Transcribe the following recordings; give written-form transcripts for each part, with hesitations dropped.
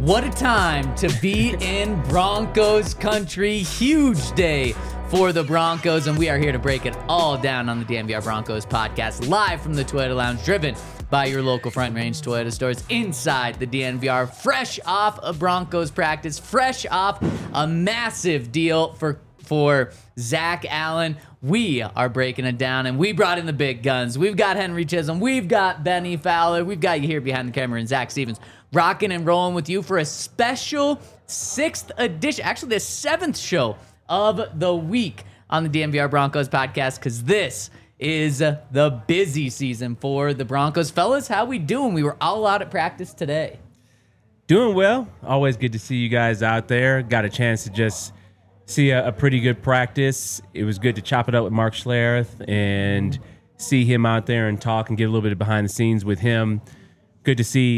What a time to be in Broncos country. Huge day for the Broncos, and we are here to break it all down on the DNVR Broncos podcast, live from the Toyota Lounge, driven by your local Front Range Toyota stores inside the DNVR, fresh off a Broncos practice, fresh off a massive deal for Zach Allen. We are breaking it down, and we brought in the big guns. We've got Henry Chisholm. We've got Benny Fowler. We've got you here behind the camera, and Zach Stevens, rocking and rolling with you for a special 6th edition, actually the 7th show of the week on the DNVR Broncos podcast, because this is the busy season for the Broncos. Fellas, how we doing? We were all out at practice today. Doing well. Always good to see you guys out there. Got a chance to just see a pretty good practice. It was good to chop it up with Mark Schlereth and see him out there and talk and get a little bit of behind the scenes with him. Good to see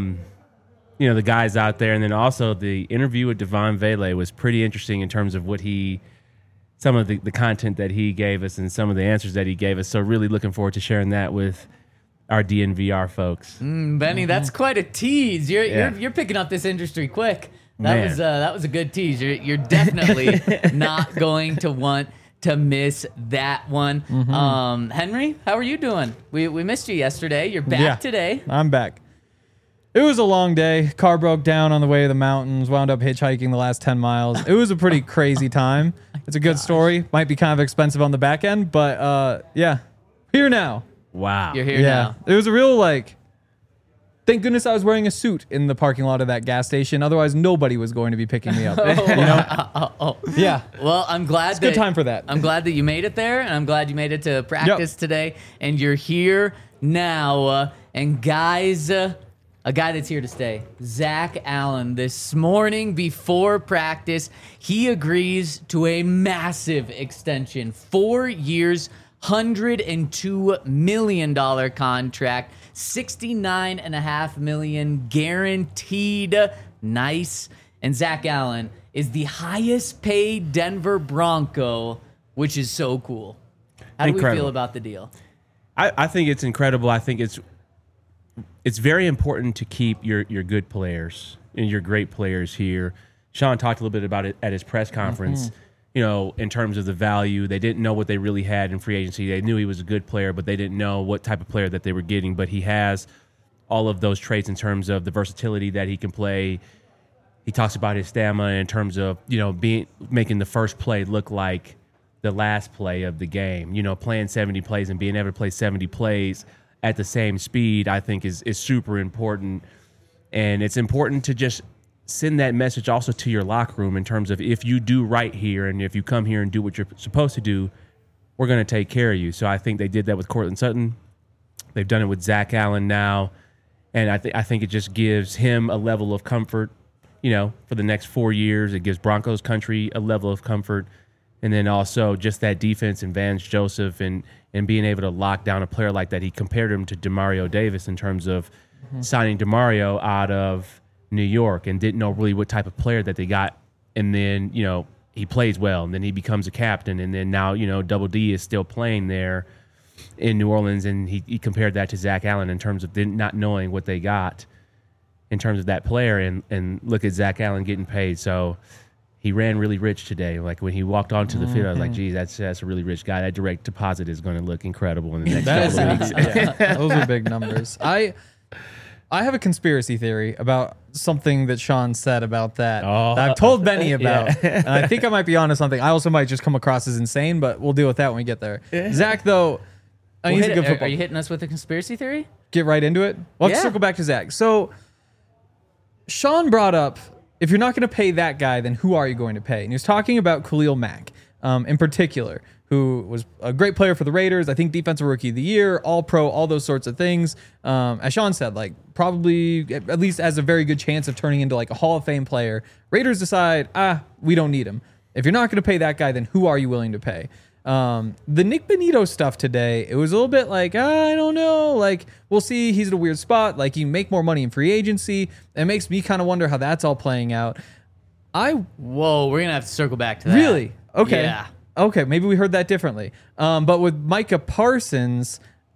the guys out there. And then also the interview with Devon Vele was pretty interesting in terms of some of the content that he gave us and some of the answers that he gave us. So really looking forward to sharing that with our DNVR folks. Benny, that's quite a tease. You're picking up this industry quick. That was a good tease. You're definitely not going to want to miss that one. Henry, how are you doing? We missed you yesterday. You're back today. I'm back. It was a long day. Car broke down on the way to the mountains. Wound up hitchhiking the last 10 miles. It was a pretty crazy time. It's a good story. Might be kind of expensive on the back end, but here now. Wow. You're here now. It was a real thank goodness I was wearing a suit in the parking lot of that gas station. Otherwise, nobody was going to be picking me up. Yeah. Well, I'm glad it's a good time for that. I'm glad that you made it there, and I'm glad you made it to practice today, and you're here now. And guys, a guy that's here to stay, Zach Allen. This morning before practice, he agrees to a massive extension, 4 years, $102 million contract, $69.5 million guaranteed. Nice. And Zach Allen is the highest paid Denver Bronco, which is so cool. How do we feel about the deal? I think it's incredible. I think it's very important to keep your good players and your great players here. Sean talked a little bit about it at his press conference. In terms of the value, they didn't know what they really had in free agency. They knew he was a good player, but they didn't know what type of player that they were getting. But he has all of those traits in terms of the versatility that he can play. He talks about his stamina in terms of, making the first play look like the last play of the game. Playing 70 plays and being able to play 70 plays at the same speed, I think is super important. And it's important to just send that message also to your locker room in terms of if you do right here and if you come here and do what you're supposed to do, we're going to take care of you. So I think they did that with Courtland Sutton. They've done it with Zach Allen now. And I think it just gives him a level of comfort, for the next 4 years. It gives Broncos country a level of comfort. And then also just that defense and Vance Joseph and being able to lock down a player like that. He compared him to Demario Davis in terms of signing Demario out of New York and didn't know really what type of player that they got. And then, he plays well and then he becomes a captain. And then now, Double D is still playing there in New Orleans. And he compared that to Zach Allen in terms of not knowing what they got in terms of that player. And look at Zach Allen getting paid. So he ran really rich today. Like when he walked onto the field, I was like, geez, that's a really rich guy. That direct deposit is going to look incredible in the next couple of weeks. Those are big numbers. I have a conspiracy theory about something that Sean said about that I've told Benny about. And I think I might be onto something. I also might just come across as insane, but we'll deal with that when we get there. Zach, though, he's a good football. Are you hitting us with a conspiracy theory? Get right into it? Well, let's circle back to Zach. So Sean brought up, if you're not going to pay that guy, then who are you going to pay? And he was talking about Khalil Mack in particular, who was a great player for the Raiders. I think defensive rookie of the year, all pro, all those sorts of things. As Sean said, probably at least has a very good chance of turning into a Hall of Fame player. Raiders decide, we don't need him. If you're not going to pay that guy, then who are you willing to pay? The Nick Bonito stuff today, it was a little bit I don't know. We'll see. He's at a weird spot. He can make more money in free agency. It makes me kind of wonder how that's all playing out. We're going to have to circle back to that. Really? Okay. Yeah. Okay, maybe we heard that differently. But with Micah Parsons,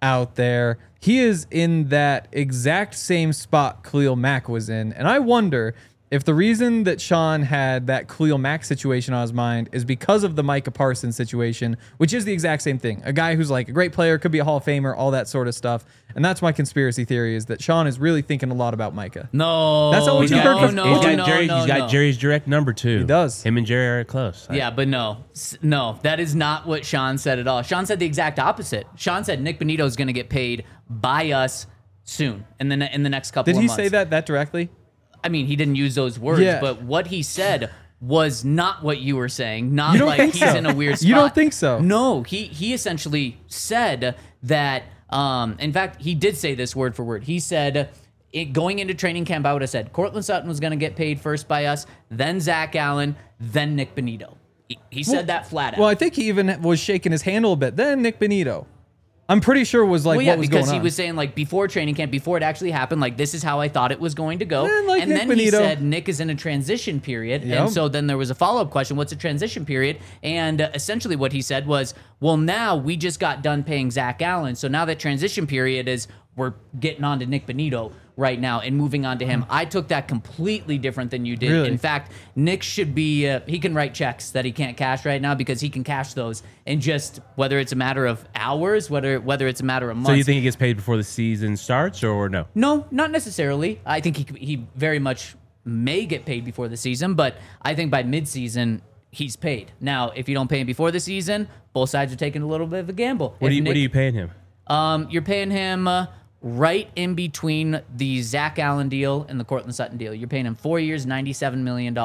out there. He is in that exact same spot Khalil Mack was in. And I wonder if the reason that Sean had that Khalil Mack situation on his mind is because of the Micah Parsons situation, which is the exact same thing. A guy who's like a great player, could be a Hall of Famer, all that sort of stuff. And that's my conspiracy theory, is that Sean is really thinking a lot about Micah. No. That's not what you heard from- He's got Jerry's direct number too. He does. Him and Jerry are close. Yeah, but no, that is not what Sean said at all. Sean said the exact opposite. Sean said Nick Bonito is going to get paid by us soon, in the next couple of Did months. he say that directly? I mean, he didn't use those words, Yeah. but what he said was not what you were saying. Not You don't like think he's so? in a weird spot. You don't think so? No, he essentially said that. In fact, he did say this word for word. He said, going into training camp, I would have said Courtland Sutton was going to get paid first by us, then Zach Allen, then Nick Bonito. He said that flat out. Well, I think he even was shaking his hand a little bit. Then Nick Bonito. I'm pretty sure was like Well, yeah, what was going because on. he was saying like before training camp, before it actually happened, like this is how I thought it was going to go. Man, like and Nick then he Bonito. said Nick is in a transition period, Yep. and so then there was a follow-up question: what's a transition period? And essentially what he said was, well, now we just got done paying Zach Allen, so now that transition period is we're getting on to Nick Bonito right now and moving on to him. I took that completely different than you did. Really? In fact, Nick should be, he can write checks that he can't cash right now because he can cash those in just, whether it's a matter of hours, whether it's a matter of months. So you think he gets paid before the season starts, or no? No, not necessarily. I think he very much may get paid before the season, but I think by midseason, he's paid. Now, if you don't pay him before the season, both sides are taking a little bit of a gamble. What are you paying him? You're paying him right in between the Zach Allen deal and the Courtland Sutton deal. You're paying him 4 years, $97 million,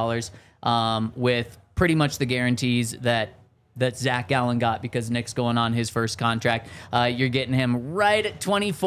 with pretty much the guarantees that Zach Allen got because Nick's going on his first contract. You're getting him right at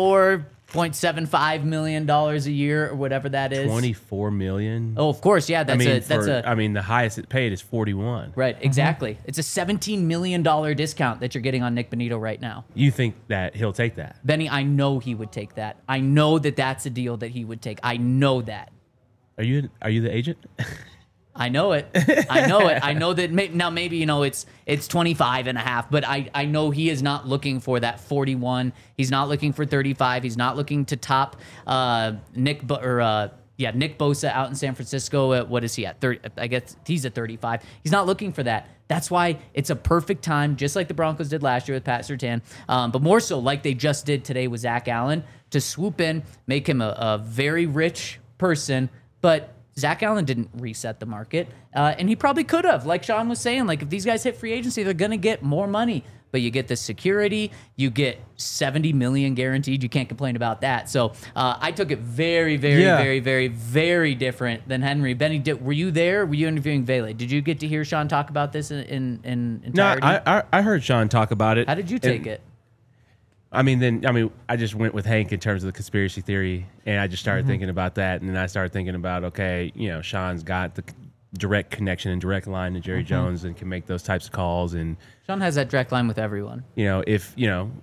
$24.75 million a year or whatever that is. $24 million. Oh, of course, yeah. That's the highest it paid is 41. right. Exactly. It's a $17 million discount that you're getting on Nick Bonito right now. You think that he'll take that? Benny, I know he would take that. I know that that's a deal that he would take. I know that. Are you the agent? I know it. I know it. I know that now maybe, it's 25 and a half, but I know he is not looking for that 41. He's not looking for 35. He's not looking to top Nick Bosa out in San Francisco at, what is he at? 30, I guess he's at 35. He's not looking for that. That's why it's a perfect time, just like the Broncos did last year with Pat Surtain, but more so like they just did today with Zach Allen, to swoop in, make him a very rich person, but Zach Allen didn't reset the market, and he probably could have. Like Sean was saying, like if these guys hit free agency, they're going to get more money. But you get the security, you get $70 million guaranteed. You can't complain about that. So I took it very, very, very, very, very different than Henry. Benny, were you there? Were you interviewing Vele? Did you get to hear Sean talk about this in entirety? No, I heard Sean talk about it. How did you take it? I just went with Hank in terms of the conspiracy theory, and I just started thinking about that, and then I started thinking about, okay, Sean's got the direct connection and direct line to Jerry Jones and can make those types of calls, and Sean has that direct line with everyone. If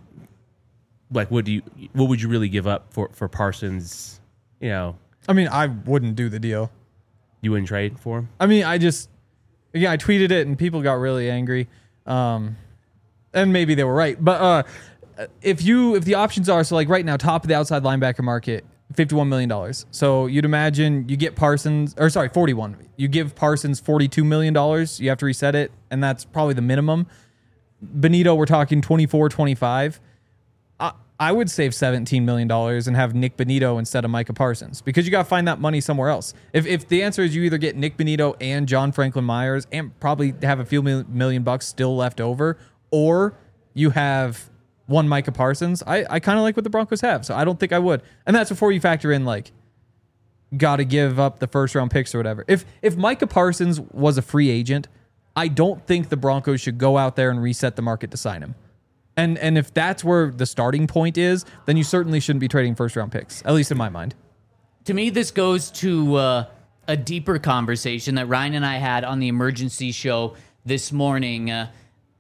like what would you really give up for Parsons? I wouldn't do the deal. You wouldn't trade for him? I tweeted it and people got really angry. And maybe they were right. But if the options are, so like right now, top of the outside linebacker market, $51 million. So you'd imagine you get 41. You give Parsons $42 million. You have to reset it, and that's probably the minimum. Bonito, we're talking 24, 25. I would save $17 million and have Nick Bonito instead of Micah Parsons, because you got to find that money somewhere else. If the answer is you either get Nick Bonito and John Franklin Myers and probably have a few million bucks still left over, or you have one Micah Parsons, I kind of like what the Broncos have, so I don't think I would. And that's before you factor in, like, got to give up the first round picks or whatever. If Micah Parsons was a free agent, I don't think the Broncos should go out there and reset the market to sign him. And if that's where the starting point is, then you certainly shouldn't be trading first round picks, at least in my mind. To me, this goes to a deeper conversation that Ryan and I had on the emergency show this morning. A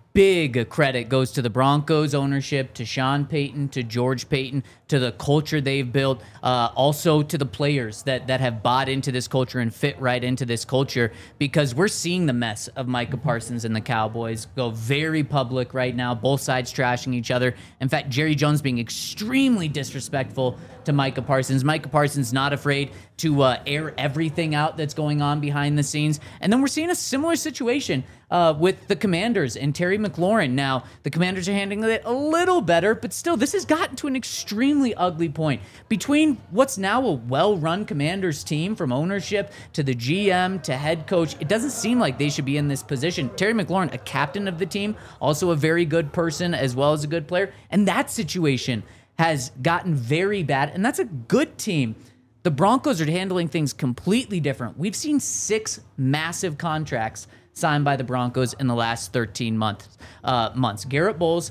big credit goes to the Broncos ownership, to Sean Payton, to George Payton, to the culture they've built, also to the players that have bought into this culture and fit right into this culture, because we're seeing the mess of Micah Parsons and the Cowboys go very public right now, both sides trashing each other. In fact, Jerry Jones being extremely disrespectful to Micah Parsons. Micah Parsons not afraid to air everything out that's going on behind the scenes. And then we're seeing a similar situation with the Commanders and Terry McLaurin. Now, the Commanders are handling it a little better, but still, this has gotten to an extremely ugly point. Between what's now a well-run Commanders team, from ownership to the GM to head coach, it doesn't seem like they should be in this position. Terry McLaurin, a captain of the team, also a very good person as well as a good player, and that situation has gotten very bad, and that's a good team. The Broncos are handling things completely different. We've seen 6 massive contracts signed by the Broncos in the last 13 months. Garrett Bowles,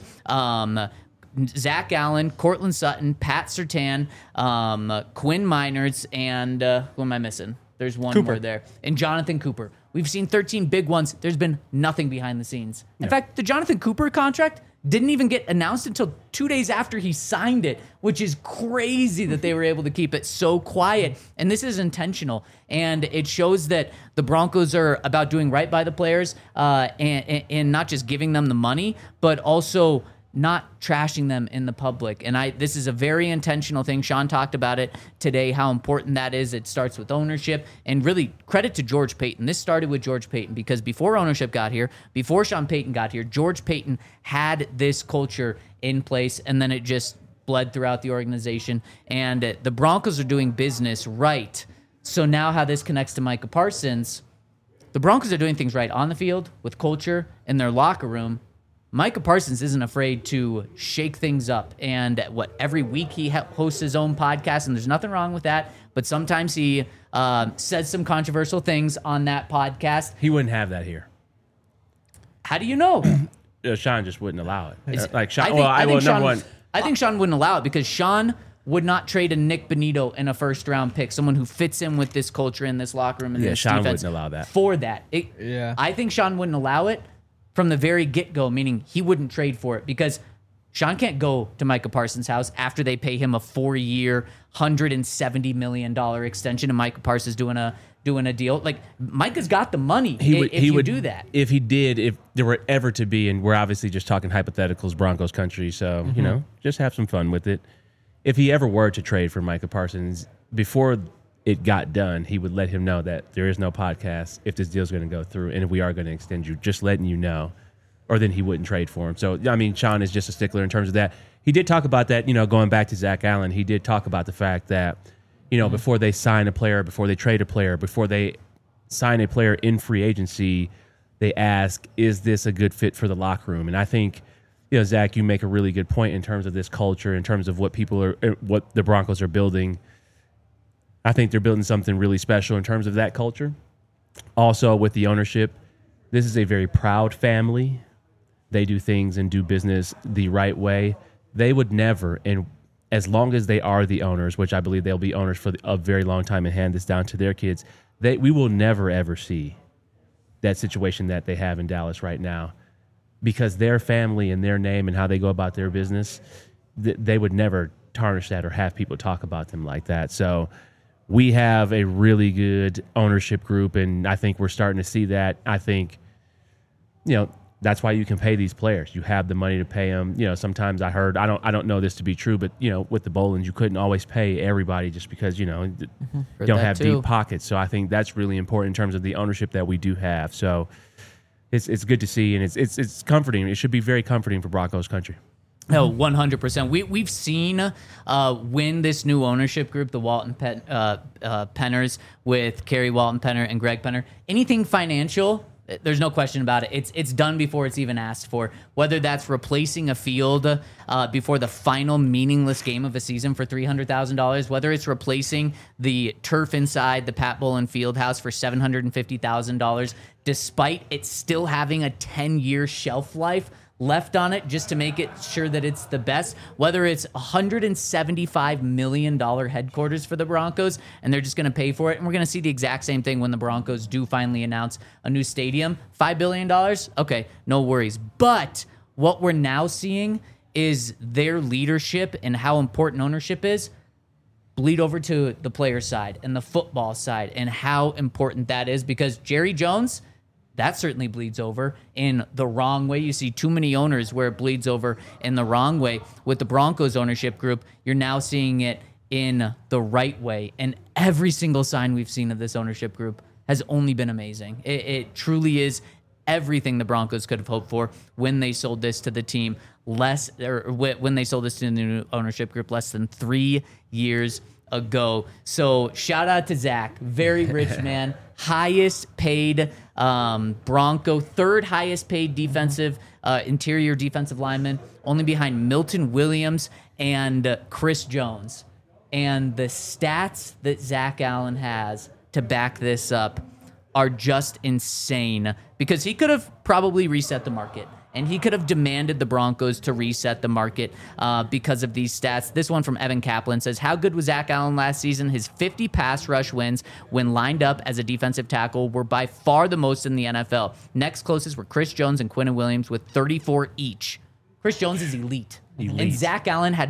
Zach Allen, Cortland Sutton, Pat Surtain, Quinn Miners, and who am I missing? There's one more there. And Jonathan Cooper. We've seen 13 big ones. There's been nothing behind the scenes. In fact, the Jonathan Cooper contract didn't even get announced until 2 days after he signed it, which is crazy that they were able to keep it so quiet. And this is intentional. And it shows that the Broncos are about doing right by the players and not just giving them the money, but also not trashing them in the public. And this is a very intentional thing. Sean talked about it today, how important that is. It starts with ownership, and really credit to George Payton. This started with George Payton, because before ownership got here, before Sean Payton got here, George Payton had this culture in place, and then it just bled throughout the organization. And the Broncos are doing business right. So now how this connects to Micah Parsons, the Broncos are doing things right on the field with culture in their locker room. Micah Parsons isn't afraid to shake things up. And every week he hosts his own podcast, and there's nothing wrong with that. But sometimes he says some controversial things on that podcast. He wouldn't have that here. How do you know? Sean just wouldn't allow it. I think Sean wouldn't allow it, because Sean would not trade a Nick Bonito in a first-round pick, someone who fits in with this culture in this locker room and this Sean defense. Wouldn't allow that. For that. I think Sean wouldn't allow it from the very get-go, meaning he wouldn't trade for it, because Sean can't go to Micah Parsons' house after they pay him a 4-year, $170 million extension, and Micah Parsons doing a deal. Like, Micah's got the money if you do that. If he did, if there were ever to be, and we're obviously just talking hypotheticals, Broncos country, so, just have some fun with it. If he ever were to trade for Micah Parsons, before it got done, he would let him know that there is no podcast if this deal's going to go through, and if we are going to extend you, just letting you know, or then he wouldn't trade for him. So, I mean, Sean is just a stickler in terms of that. He did talk about that, going back to Zach Allen, he did talk about the fact that, before they sign a player, before they trade a player, before they sign a player in free agency, they ask, is this a good fit for the locker room? And I think, Zach, you make a really good point in terms of this culture, in terms of what the Broncos are building. I think they're building something really special in terms of that culture. Also, with the ownership, this is a very proud family. They do things and do business the right way. They would never, and as long as they are the owners, which I believe they'll be owners for a very long time and hand this down to their kids, we will never, ever see that situation that they have in Dallas right now, because their family and their name and how they go about their business, they would never tarnish that or have people talk about them like that. So we have a really good ownership group, and I think we're starting to see that. I think, that's why you can pay these players. You have the money to pay them. Sometimes I heard, I don't know this to be true, but with the Bolins, you couldn't always pay everybody just because don't have deep pockets. So I think that's really important in terms of the ownership that we do have. So it's good to see, and it's comforting. It should be very comforting for Broncos country. Oh, 100%. We've seen when this new ownership group, the Walton Penners, with Kerry Walton Penner and Greg Penner, anything financial, there's no question about it. It's done before it's even asked for. Whether that's replacing a field before the final meaningless game of a season for $300,000, whether it's replacing the turf inside the Pat Bowlen Fieldhouse for $750,000, despite it still having a 10-year shelf life. left on it just to make it sure that it's the best, whether it's $175 million headquarters for the Broncos and they're just going to pay for it. And we're going to see the exact same thing when the Broncos do finally announce a new stadium. $5 billion? Okay, no worries. But what we're now seeing is their leadership and how important ownership is bleed over to the player side and the football side and how important that is, because Jerry Jones, that certainly bleeds over in the wrong way. You see too many owners where it bleeds over in the wrong way. With the Broncos ownership group, you're now seeing it in the right way. And every single sign we've seen of this ownership group has only been amazing. It truly is everything the Broncos could have hoped for when they sold this to the team when they sold this to the new ownership group less than 3 years ago. So shout out to Zach, very rich man, highest paid Bronco, third highest paid defensive interior defensive lineman, only behind Milton Williams and Chris Jones. And the stats that Zach Allen has to back this up are just insane, because he could have probably reset the market. And he could have demanded the Broncos to reset the market because of these stats. This one from Evan Kaplan says, how good was Zach Allen last season? His 50 pass rush wins when lined up as a defensive tackle were by far the most in the NFL. Next closest were Chris Jones and Quinnen Williams with 34 each. Chris Jones is elite. And Zach Allen had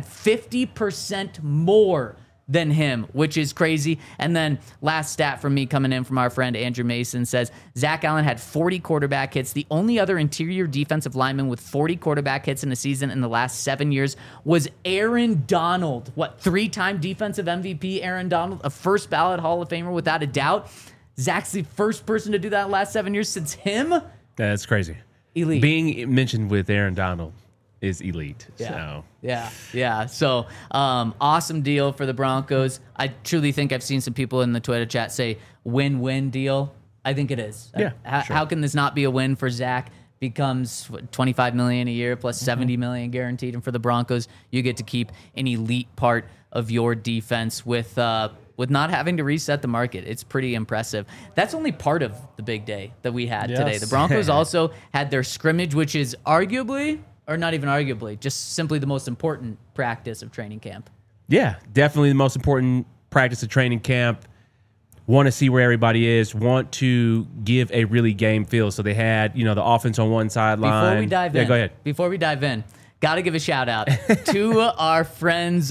50% more than him, which is crazy. And then last stat from me coming in from our friend Andrew Mason says, Zach Allen had 40 quarterback hits. The only other interior defensive lineman with 40 quarterback hits in a season in the last 7 years was Aaron Donald. What, 3-time defensive MVP Aaron Donald, a first ballot Hall of Famer without a doubt. Zach's the first person to do that in the last 7 years since him. That's crazy. Elite. Being mentioned with Aaron Donald is elite. Yeah. So. Yeah. So, awesome deal for the Broncos. I truly think I've seen some people in the Twitter chat say win-win deal. I think it is. Yeah. How can this not be a win for Zach? Becomes $25 million a year plus $70 million guaranteed, and for the Broncos, you get to keep an elite part of your defense with not having to reset the market. It's pretty impressive. That's only part of the big day that we had today. The Broncos also had their scrimmage, which is arguably, or not even arguably, just simply the most important practice of training camp. Yeah, definitely the most important practice of training camp. Want to see where everybody is, want to give a really game feel. So they had, the offense on one sideline. Before we dive in. Go ahead. Before we dive in, got to give a shout out to our friends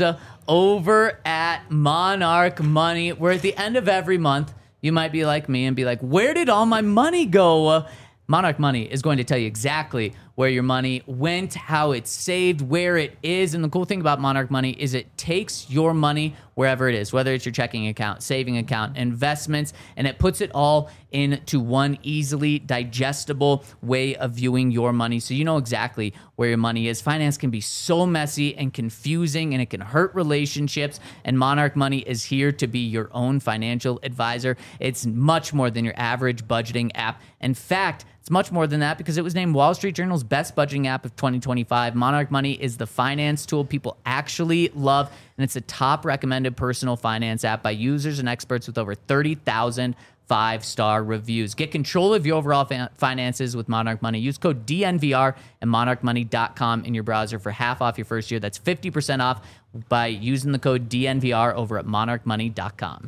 over at Monarch Money. We're at the end of every month. You might be like me and be like, where did all my money go? Monarch Money is going to tell you exactly where your money went, how it's saved, where it is. And the cool thing about Monarch Money is it takes your money wherever it is, whether it's your checking account, saving account, investments, and it puts it all into one easily digestible way of viewing your money so you know exactly where your money is. Finance can be so messy and confusing, and it can hurt relationships, and Monarch Money is here to be your own financial advisor. It's much more than your average budgeting app. In fact, it's much more than that, because it was named Wall Street Journal's best budgeting app of 2025. Monarch Money is the finance tool people actually love, and it's a top recommended personal finance app by users and experts with over 30,000 5-star reviews. Get control of your overall finances with Monarch Money. Use code DNVR at monarchmoney.com in your browser for half off your first year. That's 50% off by using the code DNVR over at monarchmoney.com.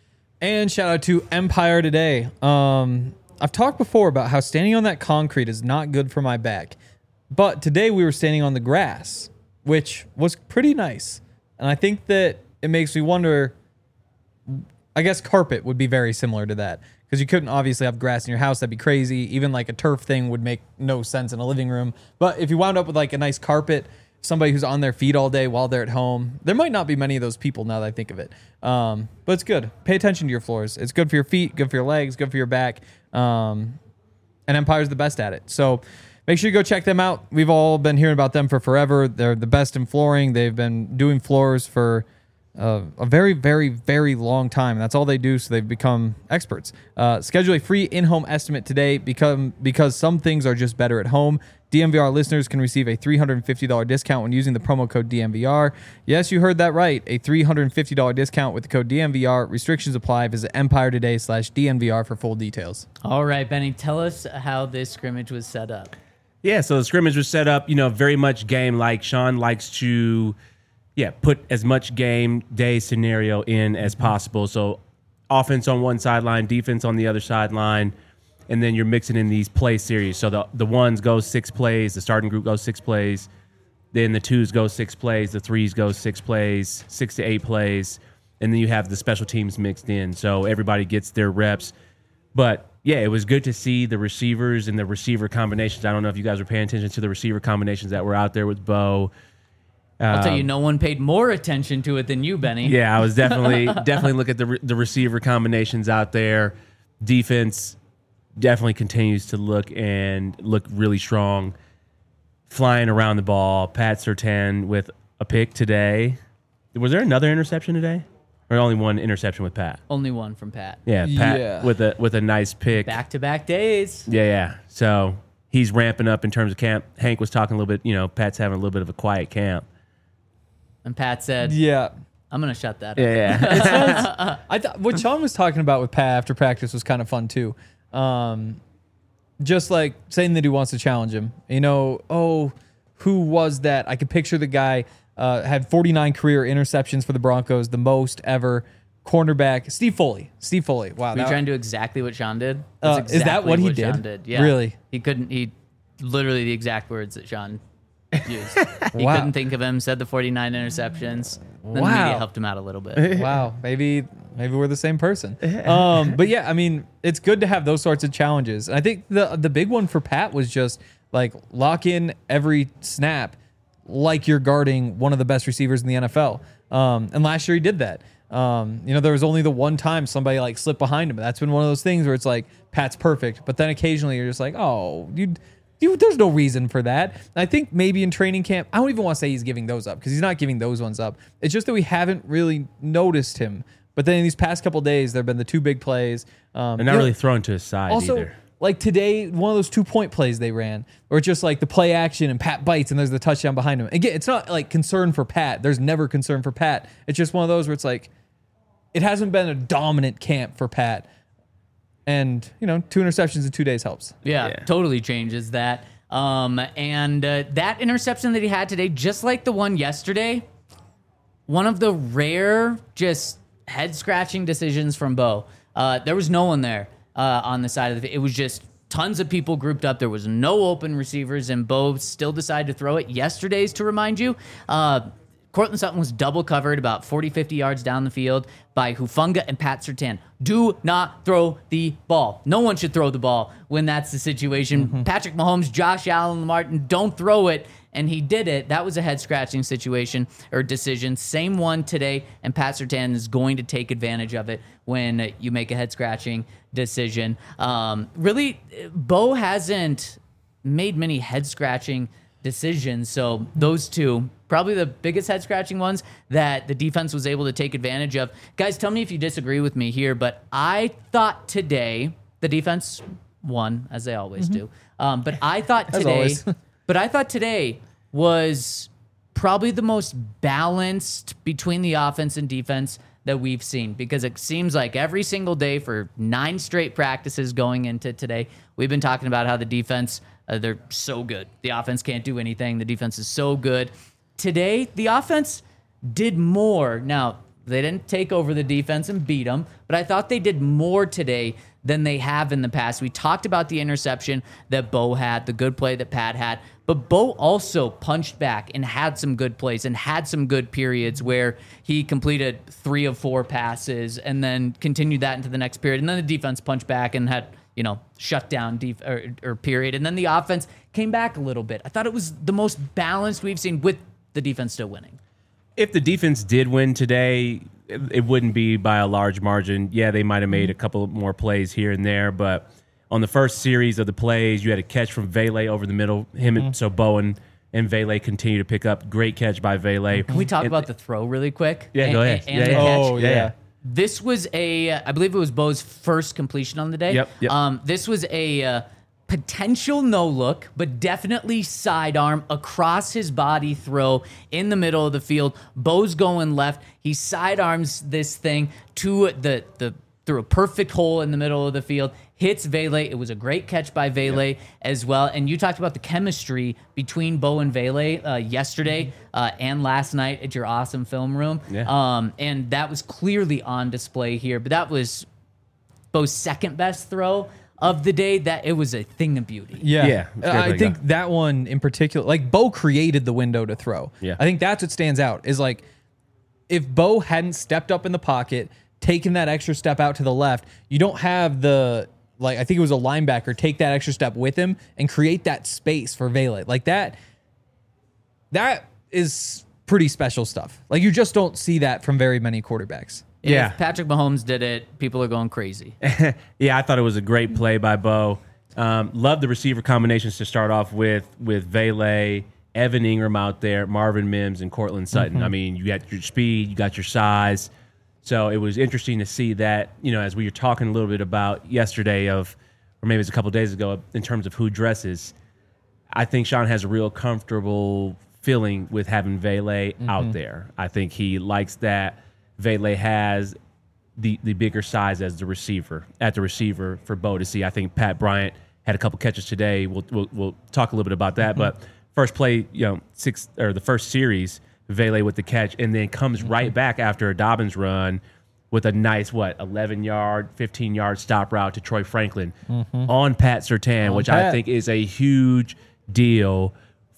And shout out to Empire Today. I've talked before about how standing on that concrete is not good for my back. But today we were standing on the grass, which was pretty nice. And I think that it makes me wonder, I guess carpet would be very similar to that, because you couldn't obviously have grass in your house. That'd be crazy. Even like a turf thing would make no sense in a living room. But if you wound up with like a nice carpet, somebody who's on their feet all day while they're at home, there might not be many of those people now that I think of it. But it's good. Pay attention to your floors. It's good for your feet, good for your legs, good for your back. And Empire's the best at it. So make sure you go check them out. We've all been hearing about them for forever. They're the best in flooring. They've been doing floors for a very, very, very long time. That's all they do, so they've become experts. Schedule a free in-home estimate today because some things are just better at home. DNVR listeners can receive a $350 discount when using the promo code DNVR. Yes, you heard that right. A $350 discount with the code DNVR. Restrictions apply. Visit EmpireToday.com/DNVR for full details. All right, Benny, tell us how this scrimmage was set up. Yeah, so the scrimmage was set up, very much game-like. Sean likes to, put as much game day scenario in as possible. So offense on one sideline, defense on the other sideline, and then you're mixing in these play series. So the ones go 6 plays, the starting group goes 6 plays, then the twos go 6 plays, the threes go 6 plays, 6 to 8 plays, and then you have the special teams mixed in. So everybody gets their reps. But yeah, it was good to see the receivers and the receiver combinations. I don't know if you guys were paying attention to the receiver combinations that were out there with Bo. I'll tell you, no one paid more attention to it than you, Benny. Yeah, I was definitely look at the receiver combinations out there. Defense definitely continues to look really strong, flying around the ball. Pat Surtain with a pick today. Was there another interception today? Or only one interception with Pat? Only one from Pat. Yeah, Pat with a nice pick. Back-to-back days. Yeah. So he's ramping up in terms of camp. Hank was talking a little bit, Pat's having a little bit of a quiet camp. And Pat said, Yeah. I'm going to shut that up. Yeah. I thought what Sean was talking about with Pat after practice was kind of fun too. Just like saying that he wants to challenge him. Who was that? I could picture the guy had 49 career interceptions for the Broncos, the most ever. Cornerback Steve Foley. Wow. Were you trying to do exactly what Sean did? Is that what he Sean did? Yeah. Really? He couldn't. He literally the exact words that Sean used. He Wow. couldn't think of him. Said the 49 interceptions. Then the Wow. media helped him out a little bit. Wow, maybe we're the same person. But yeah, I mean, it's good to have those sorts of challenges. And I think the big one for Pat was just like lock in every snap like you're guarding one of the best receivers in the NFL. And last year he did that. There was only the one time somebody like slipped behind him. That's been one of those things where it's like Pat's perfect, but then occasionally you're just like, oh, there's no reason for that. And I think maybe in training camp, I don't even want to say he's giving those up because he's not giving those ones up. It's just that we haven't really noticed him. But then in these past couple of days, there have been the 2 big plays. And not really thrown to his side also, either. Like today, one of those 2-point plays they ran, or just like the play action and Pat bites and there's the touchdown behind him. Again, it's not like concern for Pat. There's never concern for Pat. It's just one of those where it's like, it hasn't been a dominant camp for Pat. And, 2 interceptions in 2 days helps. Yeah, totally changes that. And that interception that he had today, just like the one yesterday, one of the rare just head-scratching decisions from Bo. There was no one there on the side of the field. It was just tons of people grouped up. There was no open receivers, and Bo still decided to throw it. Yesterday's, to remind you, Cortland Sutton was double covered about 40, 50 yards down the field by Hufanga and Pat Surtain. Do not throw the ball. No one should throw the ball when that's the situation. Mm-hmm. Patrick Mahomes, Josh Allen, Martin, don't throw it. And he did it. That was a head-scratching situation or decision. Same one today, and Pat Surtain is going to take advantage of it when you make a head-scratching decision. Really, Bo hasn't made many head-scratching decisions, so those 2, probably the biggest head-scratching ones that the defense was able to take advantage of. Guys, tell me if you disagree with me here, but I thought today the defense won, as they always do. But I thought today... But I thought today was probably the most balanced between the offense and defense that we've seen, because it seems like every single day for 9 straight practices going into today, we've been talking about how the defense, they're so good. The offense can't do anything. The defense is so good. Today, the offense did more. Now, they didn't take over the defense and beat them, but I thought they did more today than they have in the past. We talked about the interception that Bo had, the good play that Pat had, but Bo also punched back and had some good plays and had some good periods where he completed 3 of 4 passes and then continued that into the next period. And then the defense punched back and had, shut down or period. And then the offense came back a little bit. I thought it was the most balanced we've seen with the defense still winning. If the defense did win today, it wouldn't be by a large margin. Yeah, they might have made a couple more plays here and there, but on the first series of the plays, you had a catch from Vele over the middle. So Bowen and Vele continue to pick up. Great catch by Vele. Can we talk about the throw really quick? Yeah, go ahead. And the catch? Oh, yeah. This was I believe it was Bo's first completion on the day. Yep. This was a potential no look, but definitely sidearm across his body throw in the middle of the field. Bo's going left. He sidearms this thing to the through a perfect hole in the middle of the field, hits Vele. It was a great catch by Vele as well. And you talked about the chemistry between Bo and Vele yesterday and last night at your awesome film room. Yeah. And that was clearly on display here. But that was Bo's second best throw of the day. That it was a thing of beauty. Yeah, it's great I play, think yeah. that one in particular, like Bo created the window to throw. Yeah. I think that's what stands out is like if Bo hadn't stepped up in the pocket, taken that extra step out to the left, you don't have the, like, I think it was a linebacker, take that extra step with him and create that space for Vele. Like that is pretty special stuff. Like you just don't see that from very many quarterbacks. Yeah. If Patrick Mahomes did it, people are going crazy. Yeah, I thought it was a great play by Bo. Love the receiver combinations to start off with Vele, Evan Ingram out there, Marvin Mims, and Cortland Sutton. I mean, you got your speed, you got your size. So it was interesting to see that, as we were talking a little bit about yesterday or maybe it was a couple days ago in terms of who dresses, I think Sean has a real comfortable feeling with having Vele out there. I think he likes that Vele has the bigger size as the receiver for Bo to see. I think Pat Bryant had a couple catches today. We'll talk a little bit about that. But first play, the first series, Vele with the catch, and then comes right back after a Dobbins run with a nice 11-yard, 15-yard stop route to Troy Franklin on Pat Surtain, which I think is a huge deal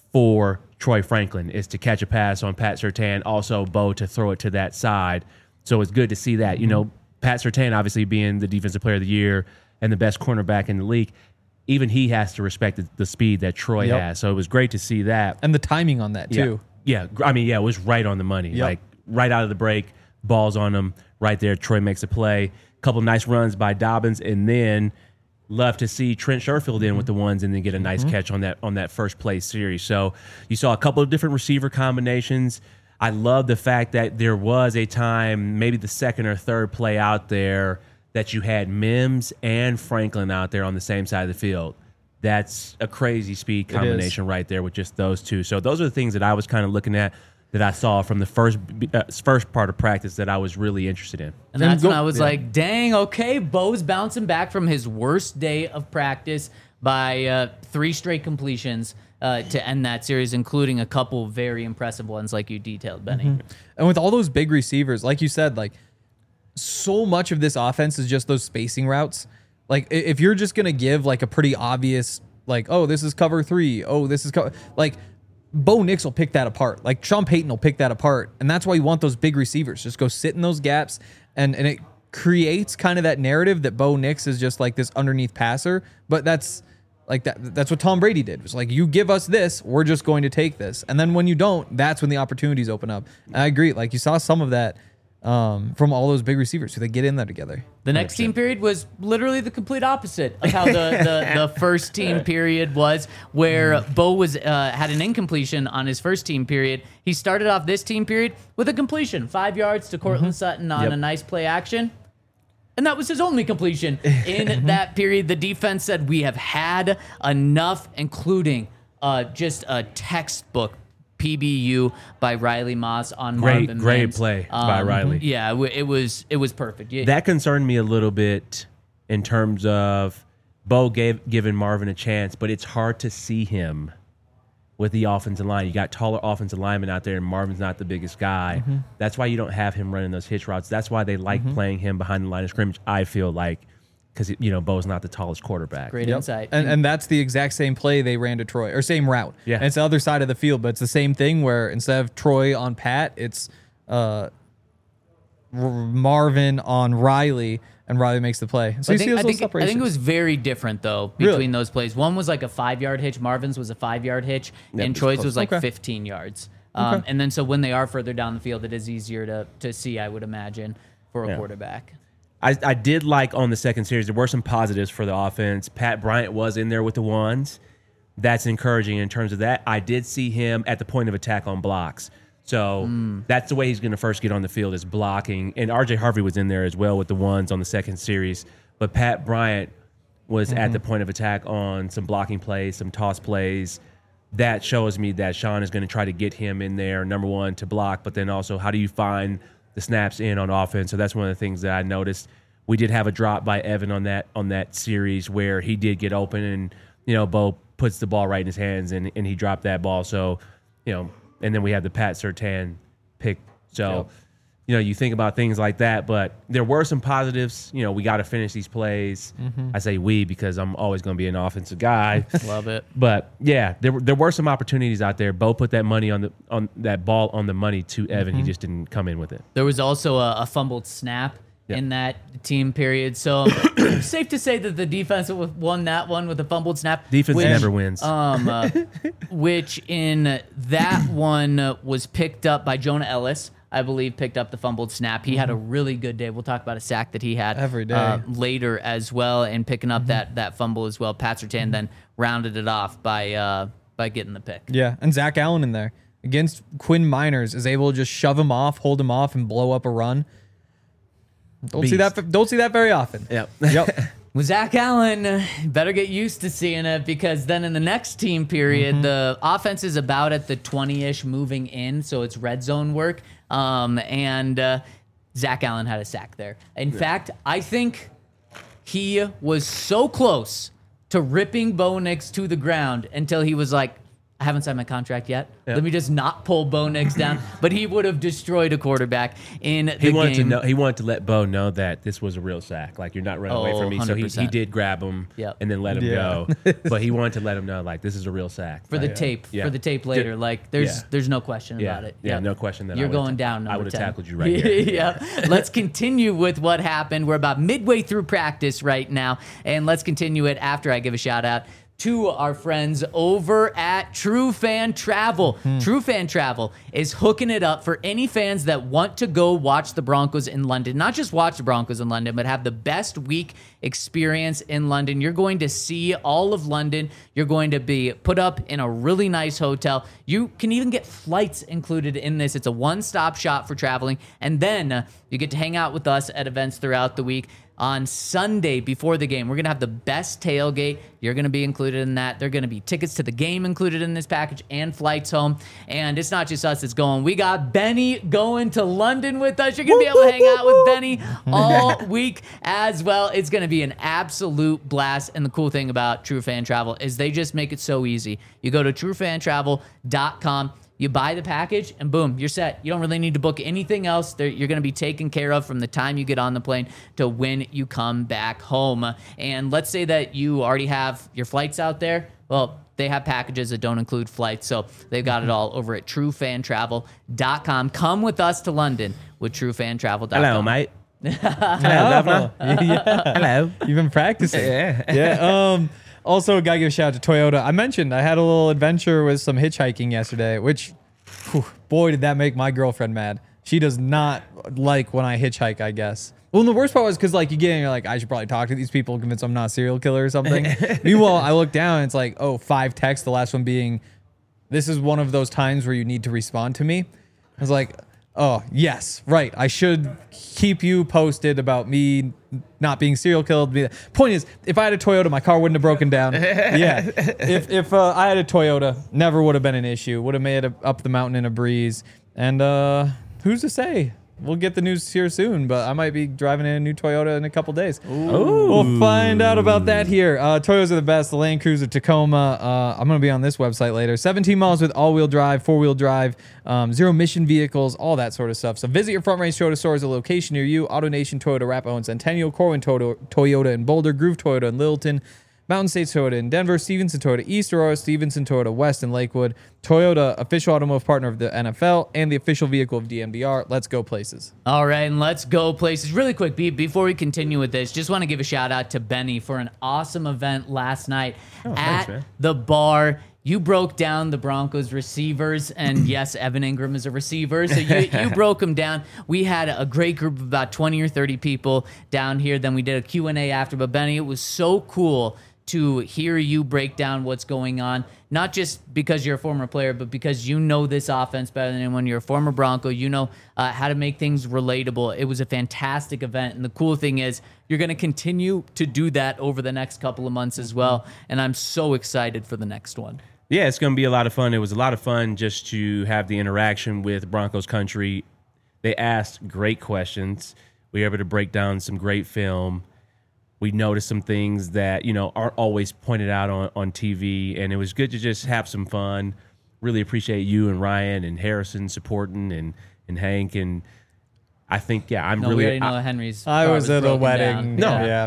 for Troy Franklin, is to catch a pass on Pat Surtain, also Bo to throw it to that side. So it's good to see that. Pat Surtain obviously being the defensive player of the year and the best cornerback in the league, even he has to respect the speed that Troy has. So it was great to see that. And the timing on that too. Yeah. I mean, it was right on the money. Yep. Like right out of the break, balls on him right there. Troy makes a play. Couple nice runs by Dobbins, and then love to see Trent Sherfield in with the ones and then get a nice catch on that first play series. So you saw a couple of different receiver combinations. I love the fact that there was a time, maybe the second or third play out there, that you had Mims and Franklin out there on the same side of the field. That's a crazy speed combination right there with just those two. So those are the things that I was kind of looking at that I saw from the first part of practice that I was really interested in. And that's when I was like, dang, okay, Bo's bouncing back from his worst day of practice by 3 straight completions to end that series, including a couple very impressive ones like you detailed, Benny. And with all those big receivers, like you said, like so much of this offense is just those spacing routes. Like if you're just going to give like a pretty obvious, like, oh, this is cover 3. Oh, this is like Bo Nix will pick that apart. Like Sean Payton will pick that apart. And that's why you want those big receivers. Just go sit in those gaps. And it creates kind of that narrative that Bo Nix is just like this underneath passer. But that's like that's what Tom Brady did. It was like, you give us this, we're just going to take this. And then when you don't, that's when the opportunities open up. And I agree. Like you saw some of that from all those big receivers who they get in there together. The next team period was literally the complete opposite of how the first team period was, where Bo was had an incompletion on his first team period. He started off this team period with a completion, 5 yards to Cortland Sutton on a nice play action. And that was his only completion in that period. The defense said, we have had enough, including just a textbook PBU by Riley Moss on Marvin Great Mims. play by Riley. Yeah, it was perfect. Yeah. That concerned me a little bit in terms of Bo giving Marvin a chance, but it's hard to see him with the offensive line. You got taller offensive linemen out there, and Marvin's not the biggest guy. That's why you don't have him running those hitch routes. That's why they like playing him behind the line of scrimmage, I feel like, because Bo's not the tallest quarterback. Great insight. And that's the exact same play they ran to Troy, or same route. Yeah. And it's the other side of the field, but it's the same thing where instead of Troy on Pat, it's Marvin on Riley, and Riley makes the play. So I you think, see those I, little think, I separations. think it was very different, though, between those plays. One was like a 5-yard hitch. Marvin's was a 5-yard hitch, and Troy's was like 15 yards. And then so when they are further down the field, it is easier to see, I would imagine, for a quarterback. I did like on the second series, there were some positives for the offense. Pat Bryant was in there with the ones. That's encouraging in terms of that. I did see him at the point of attack on blocks. So that's the way he's going to first get on the field, is blocking. And R.J. Harvey was in there as well with the ones on the second series. But Pat Bryant was at the point of attack on some blocking plays, some toss plays. That shows me that Sean is going to try to get him in there, number one, to block, but then also how do you find the snaps in on offense? So that's one of the things that I noticed we did have a drop by Evan on that series where he did get open, and Bo puts the ball right in his hands, and he dropped that ball. So and then we have the Pat Surtain pick. So. Yep. You think about things like that, but there were some positives. We got to finish these plays. Mm-hmm. I say we because I'm always going to be an offensive guy. Love it. But yeah, there were some opportunities out there. Bo put that money on that ball on the money to Evan. Mm-hmm. He just didn't come in with it. There was also a fumbled snap in that team period. So safe to say that the defense won that one with a fumbled snap. Defense never wins. Which in that one was picked up by Jonah Ellis. I believe, picked up the fumbled snap. He had a really good day. We'll talk about a sack that he had every day later as well, and picking up that fumble as well. Pat Surtain then rounded it off by getting the pick. Yeah, and Zach Allen in there against Quinn Miners is able to just shove him off, hold him off, and blow up a run. Don't see that very often. Yep. With Zach Allen, better get used to seeing it, because then in the next team period, the offense is about at the 20-ish moving in, so it's red zone work. And Zach Allen had a sack there. In fact, I think he was so close to ripping Bo Nix to the ground until he was like, I haven't signed my contract yet. Yep. Let me just not pull Bo Nix down. But he would have destroyed a quarterback in the game. He wanted to let Bo know that this was a real sack. Like, you're not running away from me. 100%. So he did grab him and then let him go. But he wanted to let him know, like, this is a real sack. For the tape. Yeah. For the tape later. Like, there's no question about it. Yeah, no question that you're going down. I would have tackled you right here. Let's continue with what happened. We're about midway through practice right now. And let's continue it after I give a shout out to our friends over at True Fan Travel. True Fan Travel is hooking it up for any fans that want to go watch the Broncos in London. Not just watch the Broncos in London, but have the best week experience in London. You're going to see all of London. You're going to be put up in a really nice hotel. You can even get flights included in this. It's a one-stop shop for traveling. And then you get to hang out with us at events throughout the week. On Sunday before the game, we're going to have the best tailgate. You're going to be included in that. There are going to be tickets to the game included in this package and flights home. And it's not just us that's going. We got Benny going to London with us. You're going to be able to hang out with Benny all week as well. It's going to be an absolute blast. And the cool thing about True Fan Travel is they just make it so easy. You go to truefantravel.com. You buy the package, and boom, you're set. You don't really need to book anything else. You're going to be taken care of from the time you get on the plane to when you come back home. And let's say that you already have your flights out there. Well, they have packages that don't include flights, so they've got it all over at truefantravel.com. Come with us to London with truefantravel.com. Hello, mate. Hello, governor. Hello. You've been practicing. Yeah. Also, gotta give a shout out to Toyota. I mentioned I had a little adventure with some hitchhiking yesterday, which, boy, did that make my girlfriend mad. She does not like when I hitchhike, I guess. Well, and the worst part was because, like, you get in, you're like, I should probably talk to these people, convince I'm not a serial killer or something. Meanwhile, I look down, and it's like, 5 texts, the last one being, this is one of those times where you need to respond to me. I was like, oh, yes, right. I should keep you posted about me not being serial killed. Point is, if I had a Toyota, my car wouldn't have broken down. Yeah. If I had a Toyota, never would have been an issue. Would have made it up the mountain in a breeze. And who's to say? We'll get the news here soon, but I might be driving in a new Toyota in a couple days. Ooh. We'll find out about that here. Toyotas are the best. The Land Cruiser Tacoma. I'm going to be on this website later. 17 miles with all-wheel drive, 4-wheel drive, zero-emission vehicles, all that sort of stuff. So visit your Front Range Toyota stores, a location near you. AutoNation Toyota, Arapahoe and Centennial, Corwin Toyota in Boulder, Groove Toyota in Littleton, Mountain States Toyota in Denver, Stevenson Toyota East, Aurora, Stevenson Toyota West in Lakewood, Toyota, official automotive partner of the NFL, and the official vehicle of DMVR. Let's go places. All right, and let's go places. Really quick, before we continue with this, just want to give a shout out to Benny for an awesome event last night at the bar. You broke down the Broncos receivers, and yes, Evan Ingram is a receiver, so you broke them down. We had a great group of about 20 or 30 people down here. Then we did a Q&A after, but Benny, it was so cool to hear you break down what's going on, not just because you're a former player, but because you know this offense better than anyone. You're a former Bronco. You know how to make things relatable. It was a fantastic event, and the cool thing is you're going to continue to do that over the next couple of months as well, and I'm so excited for the next one. Yeah, it's going to be a lot of fun. It was a lot of fun just to have the interaction with Broncos Country. They asked great questions. We were able to break down some great film. We noticed some things that, aren't always pointed out on TV, and it was good to just have some fun. Really appreciate you and Ryan and Harrison supporting and Hank, and I think, I'm No, really... we already know Henry's. I car was at a broken wedding. down. Yeah.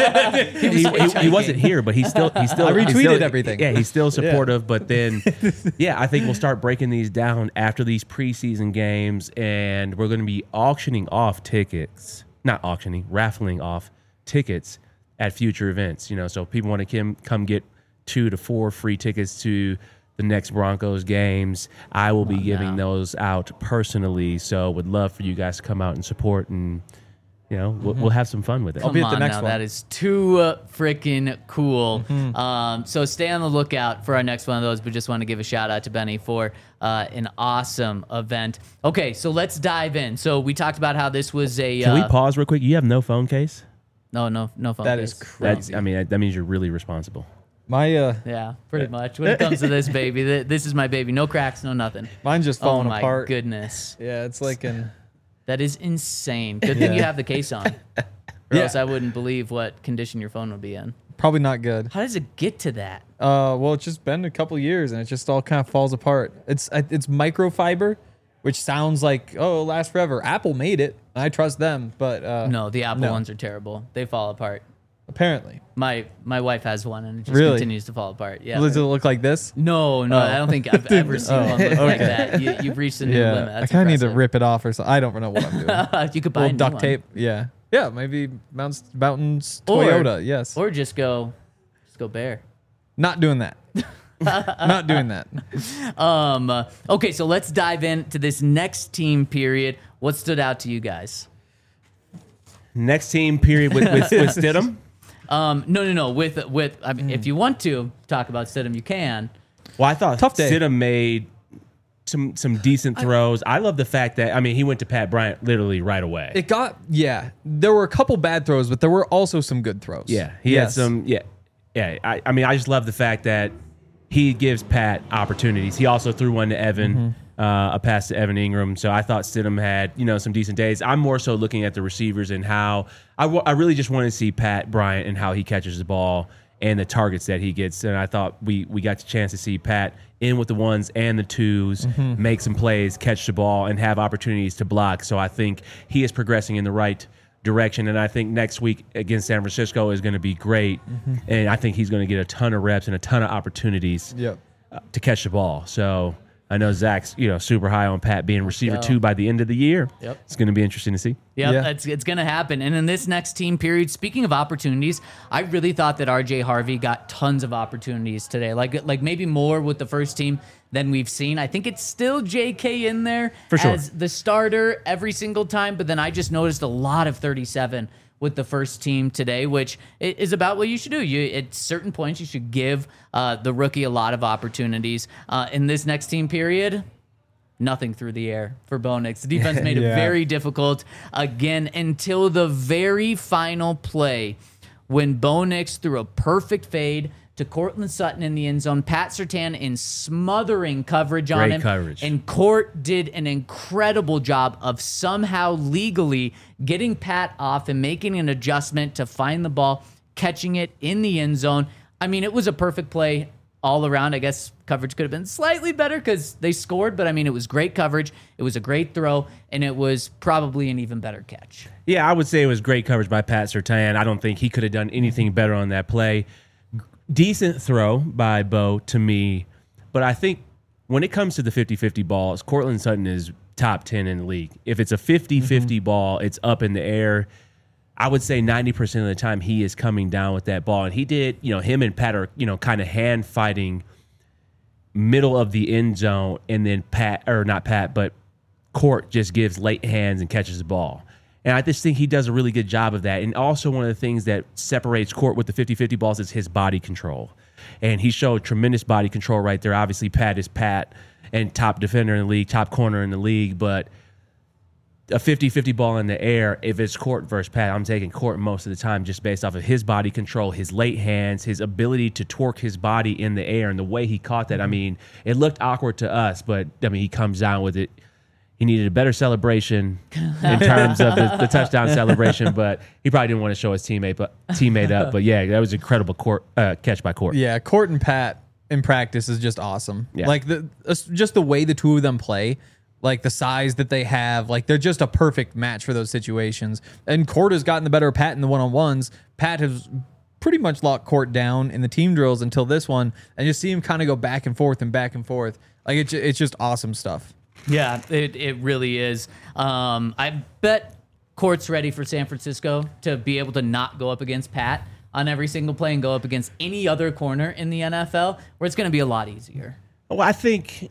he wasn't here, but he still I retweeted everything. Yeah, he's still supportive. But then, I think we'll start breaking these down after these preseason games, and we're going to be auctioning off tickets. Not auctioning, raffling off tickets at future events. So if people want to come get 2 to 4 free tickets to the next Broncos games, I will be giving those out personally. So would love for you guys to come out and support, and we'll have some fun with it. I'll be Come at the on next now, one. that is too freaking cool. So stay on the lookout for our next one of those. But just want to give a shout out to Benny for an awesome event. Okay, so let's dive in. So we talked about how this was a. Can we pause real quick? You have no phone case? No phone. That case. is crazy. That means you're really responsible. Yeah, pretty much. When it comes to this baby, this is my baby. No cracks, no nothing. Mine's just Oh falling my apart. goodness, Yeah, it's like an. that is insane. Good thing you have the case on, or Yeah. else I wouldn't believe what condition your phone would be in. Probably not good. How does it get to that? Well, it's just been a couple years and it just all kind of falls apart. It's microfiber, which sounds like, oh, it'll last forever. Apple made it. I trust them, but No, the Apple no. ones are terrible. They fall apart. apparently. My wife has one and it just Really? continues to fall apart. Yeah. Does it look like this? No, I don't think I've ever seen one look like that. You've reached a new limit. I That's kind of need to impressive. rip it off or something. I don't know what I'm doing. You could buy a Little new duct one. tape. Yeah. Yeah, maybe Mountains Or- Toyota. Yes. Or just go bare. Not doing that. Not doing that. Okay, so let's dive into this next team period. What stood out to you guys? Next team period with Stidham. No. With I mean, if you want to talk about Stidham, you can. Well, I thought Tough day. Stidham made some decent throws. I love the fact that he went to Pat Bryant literally right away. There were a couple bad throws, but there were also some good throws. He had some. I just love the fact that he gives Pat opportunities. He also threw one to Evan, a pass to Evan Ingram. So I thought Stidham had some decent days. I'm more so looking at the receivers and how I really just want to see Pat Bryant and how he catches the ball and the targets that he gets. And I thought we got the chance to see Pat in with the ones and the twos, make some plays, catch the ball, and have opportunities to block. So I think he is progressing in the right direction, and I think next week against San Francisco is going to be great, and I think he's going to get a ton of reps and a ton of opportunities Yep. to catch the ball. So I know Zach's super high on Pat being receiver go. 2 by the end of the year. Yep. It's going to be interesting to see. Yep, Yeah. it's going to happen. And in this next team period, speaking of opportunities, I really thought that RJ Harvey got tons of opportunities today. Like maybe more with the first team than we've seen. I think it's still JK in there For sure. as the starter every single time, but then I just noticed a lot of 37 with the first team today, which is about what you should do. At certain points, you should give the rookie a lot of opportunities. In this next team period, nothing through the air for Bo Nix. The defense made it Yeah. very difficult again until the very final play when Bo Nix threw a perfect fade to Cortland Sutton in the end zone. Pat Surtain in smothering coverage on Great him. coverage. And Court did an incredible job of somehow legally getting Pat off and making an adjustment to find the ball, catching it in the end zone. I mean, it was a perfect play all around. I guess coverage could have been slightly better because they scored, but I mean, it was great coverage. It was a great throw, and it was probably an even better catch. Yeah, I would say it was great coverage by Pat Surtain. I don't think he could have done anything better on that play. Decent throw by Bo to me, but I think when it comes to the 50-50 balls, Cortland Sutton is top 10 in the league. If it's a 50-50 ball, it's up in the air. I would say 90% of the time he is coming down with that ball. And he did, him and Pat are, kind of hand fighting middle of the end zone, and then Court just gives late hands and catches the ball. And I just think he does a really good job of that. And also one of the things that separates Court with the 50-50 balls is his body control. And he showed tremendous body control right there. Obviously, Pat is Pat and top defender in the league, top corner in the league. But a 50-50 ball in the air, if it's Court versus Pat, I'm taking Court most of the time just based off of his body control, his late hands, his ability to torque his body in the air, and the way he caught that. I mean, it looked awkward to us, but, he comes down with it. He needed a better celebration in terms of the touchdown celebration, but he probably didn't want to show his teammate up. But yeah, that was an incredible catch by Court. Yeah, Court and Pat in practice is just awesome. Yeah. Like just the way the two of them play, like the size that they have, like they're just a perfect match for those situations. And Court has gotten the better of Pat in the one-on-ones. Pat has pretty much locked Court down in the team drills until this one, and you see him kind of go back and forth and back and forth. Like it's just awesome stuff. Yeah, it really is. I bet Court's ready for San Francisco to be able to not go up against Pat on every single play and go up against any other corner in the NFL, where it's going to be a lot easier. Well, I think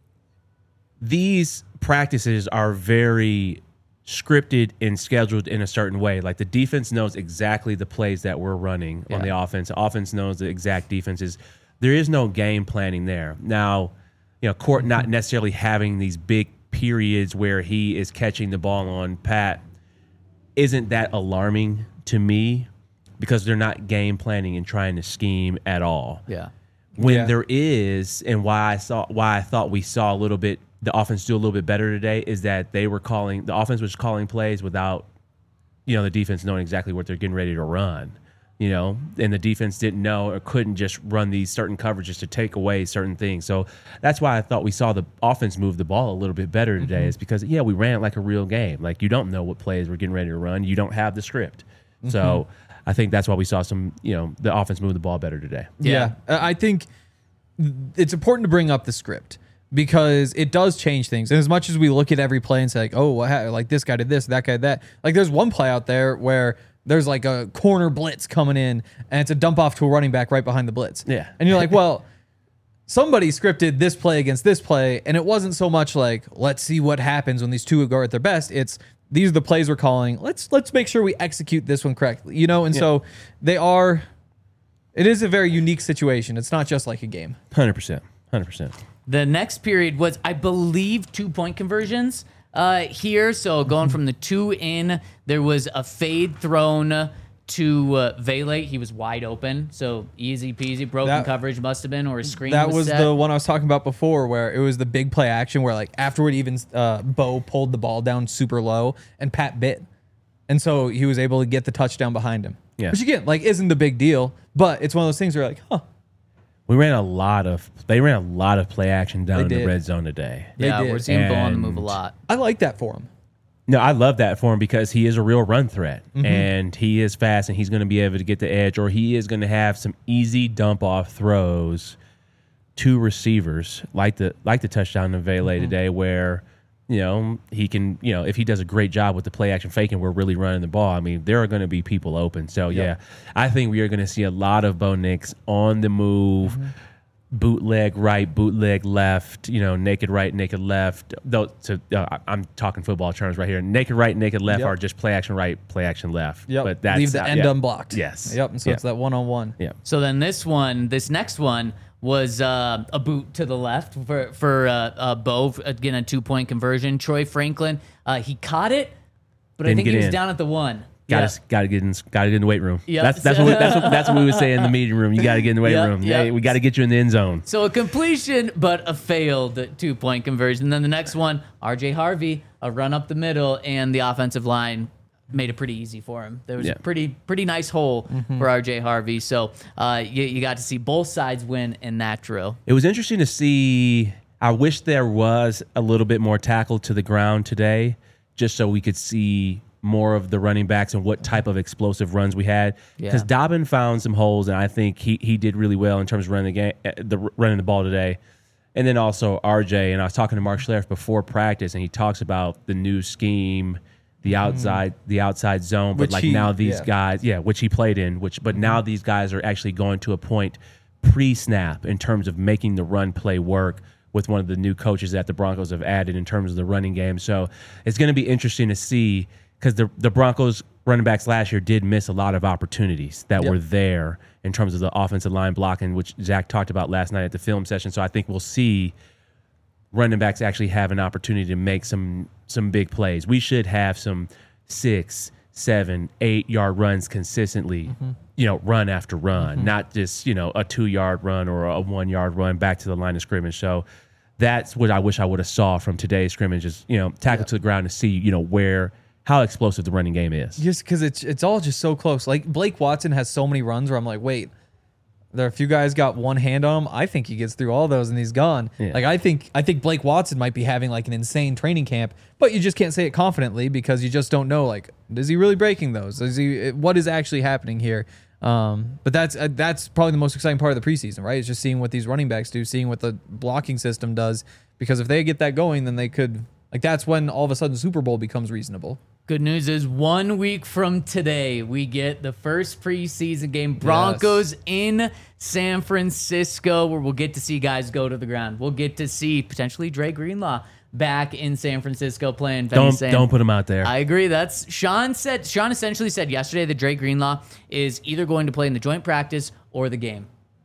these practices are very scripted and scheduled in a certain way. Like the defense knows exactly the plays that we're running on the offense. The offense knows the exact defenses. There is no game planning there. Now, Court not necessarily having these big periods where he is catching the ball on Pat isn't that alarming to me, because they're not game planning and trying to scheme at all. Yeah. When there is, and why I thought we saw the offense do a little bit better today, is that the offense was calling plays without, the defense knowing exactly what they're getting ready to run. And the defense didn't know or couldn't just run these certain coverages to take away certain things. So that's why I thought we saw the offense move the ball a little bit better today, is because, we ran it like a real game. Like, you don't know what plays we're getting ready to run. You don't have the script. So I think that's why we saw the offense move the ball better today. Yeah. I think it's important to bring up the script, because it does change things. And as much as we look at every play and say, like, oh, like this guy did this, that guy did that. Like, there's one play out there where there's like a corner blitz coming in, and it's a dump off to a running back right behind the blitz. Yeah. And you're like, well, somebody scripted this play against this play, and it wasn't so much like, let's see what happens when these two go at their best. It's, these are the plays we're calling. Let's make sure we execute this one correctly. And so it is a very unique situation. It's not just like a game. 100%. The next period was, I believe, 2-point conversions here. So going from the 2 in, there was a fade thrown to Vele. He was wide open, so easy peasy. Broken coverage must have been, or a screen. That was set. the one I was talking about before, where it was the big play action where, like, afterward, even Bo pulled the ball down super low and Pat bit, and so he was able to get the touchdown behind him. Yeah. Which again, like, isn't the big deal, but it's one of those things where you're like, huh. They ran a lot of play action down in the red zone today. Yeah, did. we're seeing Bo on the move a lot. I like that for him. No, I love that for him, because he is a real run threat, and he is fast, and he's going to be able to get the edge, or he is going to have some easy dump off throws to receivers, like the touchdown to Vele today, where he can, if he does a great job with the play action faking, we're really running the ball. I mean, there are going to be people open. So I think we are going to see a lot of Bo Nix on the move. Bootleg right, bootleg left, naked right, naked left. I'm talking football terms right here. Naked right, naked left are just play action right, play action left. Yep. But that's, leave the end unblocked. Yes. Yep. And so it's that one-on-one. Yeah. So then this next one was a boot to the left for Bo, again, a 2-point conversion. Troy Franklin, he caught it, but I think he was down at the 1. Got to get in the weight room. Yep. That's what we would say in the meeting room. You got to get in the weight room. Yep. Hey, we got to get you in the end zone. So a completion, but a failed 2-point conversion. Then the next one, RJ Harvey, a run up the middle, and the offensive line made it pretty easy for him. There was a pretty nice hole for RJ Harvey. So you got to see both sides win in that drill. It was interesting to see. I wish there was a little bit more tackle to the ground today, just so we could see more of the running backs and what type of explosive runs we had. Because Dobbin found some holes, and I think he did really well in terms of running the ball today. And then also RJ, and I was talking to Mark Schlereth before practice, and he talks about the new scheme, the outside zone, but now these guys, which he played in, but now these guys are actually going to a point pre-snap in terms of making the run play work with one of the new coaches that the Broncos have added in terms of the running game. So it's going to be interesting to see, because the Broncos running backs last year did miss a lot of opportunities that were there in terms of the offensive line blocking, which Zach talked about last night at the film session. So I think we'll see running backs actually have an opportunity to make some big plays. We should have some 6, 7, 8 yard runs consistently, run after run, not just, a 2 yard run or a 1 yard run back to the line of scrimmage. So that's what I wish I would have saw from today's scrimmage is, tackle to the ground to see, how explosive the running game is. Just because it's all just so close. Like Blake Watson has so many runs where I'm like, wait, there are a few guys got one hand on him. I think he gets through all those and he's gone. Yeah. Like I think Blake Watson might be having like an insane training camp, but you just can't say it confidently because you just don't know. Like, is he really breaking those? What is actually happening here? But that's probably the most exciting part of the preseason, right? It's just seeing what these running backs do, seeing what the blocking system does. Because if they get that going, then they could. Like that's when all of a sudden Super Bowl becomes reasonable. Good news is 1 week from today, we get the first preseason game. Broncos in San Francisco, where we'll get to see guys go to the ground. We'll get to see potentially Dre Greenlaw back in San Francisco playing. Don't put him out there. I agree. That's Sean essentially said yesterday that Dre Greenlaw is either going to play in the joint practice or the game.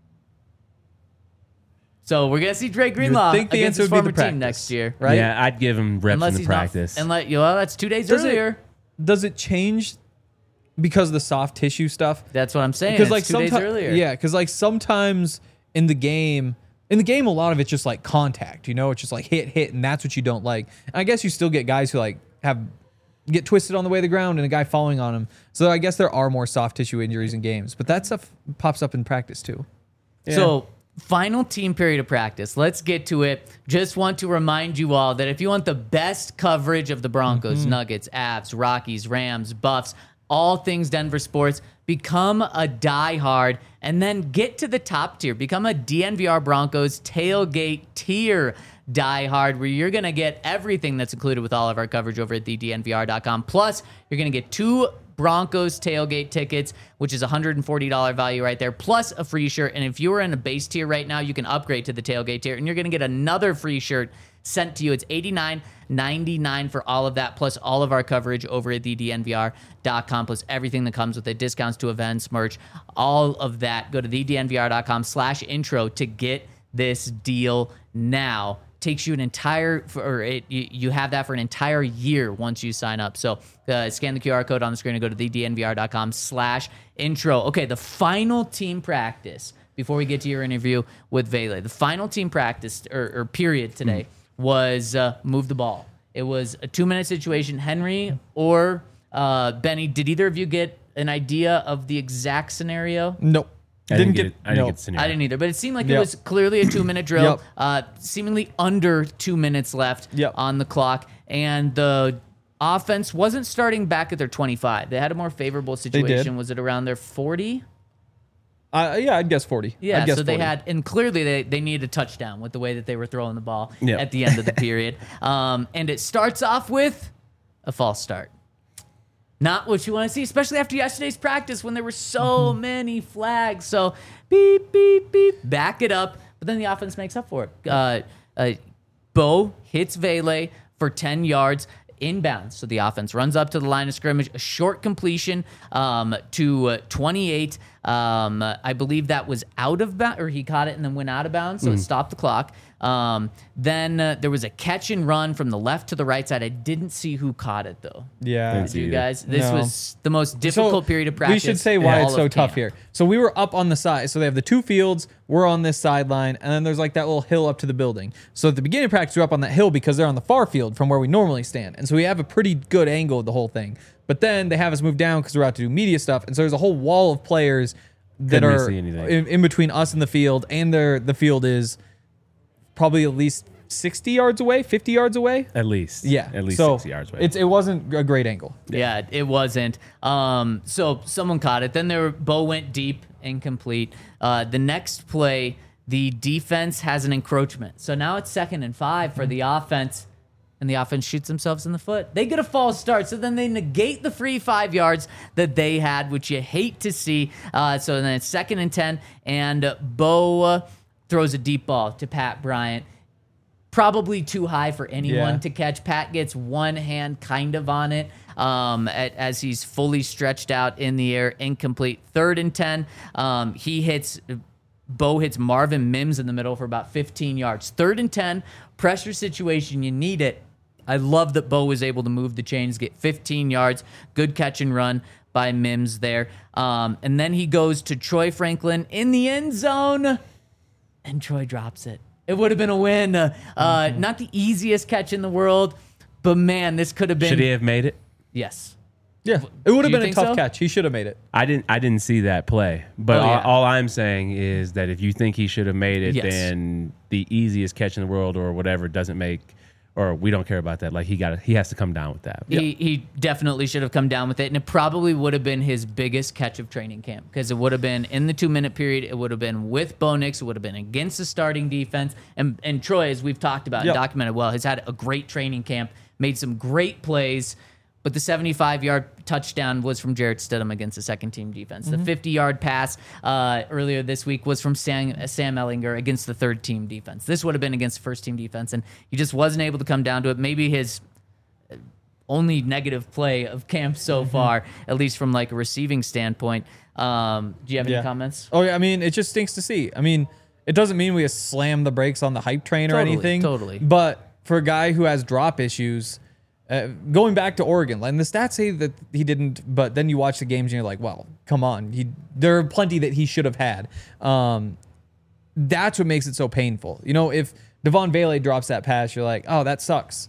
So we're gonna see Dre Greenlaw against his former team next year, right? Yeah, I'd give him reps in the practice. That's 2 days earlier. Does it change because of the soft tissue stuff? That's what I'm saying. Because it's 2 days earlier. Yeah, because like sometimes in the game, a lot of it's just like contact. It's just like hit, and that's what you don't like. And I guess you still get guys who like get twisted on the way to the ground and a guy falling on him. So I guess there are more soft tissue injuries in games, but that stuff pops up in practice too. Yeah. So. Final team period of practice. Let's get to it. Just want to remind you all that if you want the best coverage of the Broncos, Nuggets, Avs, Rockies, Rams, Buffs, all things Denver sports, become a diehard and then get to the top tier. Become a DNVR Broncos tailgate tier diehard where you're going to get everything that's included with all of our coverage over at thednvr.com. Plus, you're going to get 2 Broncos tailgate tickets, which is $140 value right there, plus a free shirt. And if you are in a base tier right now, you can upgrade to the tailgate tier, and you're going to get another free shirt sent to you. It's $89.99 for all of that, plus all of our coverage over at thednvr.com, plus everything that comes with it, discounts to events, merch, all of that. Go to thednvr.com/intro to get this deal now. Takes you an entire, you have that for an entire year once you sign up. So scan the QR code on the screen and go to thednvr.com/intro. Okay, the final team practice before we get to your interview with Vele. The final team practice or period today was move the ball. It was a 2-minute situation. Henry or Benny, did either of you get an idea of the exact scenario? Nope. I didn't get the scenario. I didn't either, but it seemed like it was clearly a 2-minute drill, seemingly under 2 minutes left on the clock, and the offense wasn't starting back at their 25. They had a more favorable situation. Was it around their 40? I'd guess 40. Yeah, I'd guess so they 40. had, and clearly they needed a touchdown with the way that they were throwing the ball at the end of the period. And it starts off with a false start. Not what you want to see, especially after yesterday's practice when there were so many flags. So beep, beep, beep, back it up. But then the offense makes up for it. Bo hits Vele for 10 yards inbounds. So the offense runs up to the line of scrimmage, a short completion to 28. I believe that was out of bounds, or he caught it and then went out of bounds, so it stopped the clock. Then there was a catch and run from the left to the right side. I didn't see who caught it, though. Yeah. Did you guys? This was the most difficult period of practice. We should say why it's so tough here. So we were up on the side. So they have the 2 fields. We're on this sideline. And then there's like that little hill up to the building. So at the beginning of practice, we're up on that hill because they're on the far field from where we normally stand. And so we have a pretty good angle of the whole thing. But then they have us move down because we're out to do media stuff. And so there's a whole wall of players that are in between us and the field. And the field is probably at least 60 yards away, 50 yards away. At least. Yeah. At least so 60 yards away. It wasn't a great angle. Yeah, it wasn't. So someone caught it. Then Bo went deep, incomplete. The next play, the defense has an encroachment. So now it's 2nd and 5 for the offense. And the offense shoots themselves in the foot. They get a false start, so then they negate the free 5 yards that they had, which you hate to see. So then it's 2nd and 10, and Bo throws a deep ball to Pat Bryant. Probably too high for anyone to catch. Pat gets one hand kind of on it as he's fully stretched out in the air, incomplete. 3rd and 10, Bo hits Marvin Mims in the middle for about 15 yards. 3rd and 10, pressure situation, you need it. I love that Bo was able to move the chains, get 15 yards, good catch and run by Mims there. And then he goes to Troy Franklin in the end zone, and Troy drops it. It would have been a win. Not the easiest catch in the world, but man, this could have been. Should he have made it? Yes. Yeah, it would Do have you been a think tough so? catch. He should have made it. I didn't see that play, but Oh, yeah. all I'm saying is that if you think he should have made it, Yes. then the easiest catch in the world or whatever doesn't make, or we don't care about that. Like he has to come down with that. He definitely should have come down with it, and it probably would have been his biggest catch of training camp because it would have been in the 2-minute period. It would have been with Bo Nix. It would have been against the starting defense. And Troy, as we've talked about and documented well, has had a great training camp, made some great plays. But the 75-yard touchdown was from Jarrett Stidham against the second-team defense. The 50-yard pass earlier this week was from Sam Ehlinger against the third-team defense. This would have been against the first-team defense, and he just wasn't able to come down to it. Maybe his only negative play of camp so far, at least from like a receiving standpoint. Do you have any comments? Oh, yeah. I mean, it just stinks to see. I mean, it doesn't mean we slam the brakes on the hype train or Totally, anything. totally. But for a guy who has drop issues, going back to Oregon, and the stats say that he didn't, but then you watch the games and you're like, well, come on. There are plenty that he should have had. That's what makes it so painful. You know, if Devon Vele drops that pass, you're like, oh, that sucks.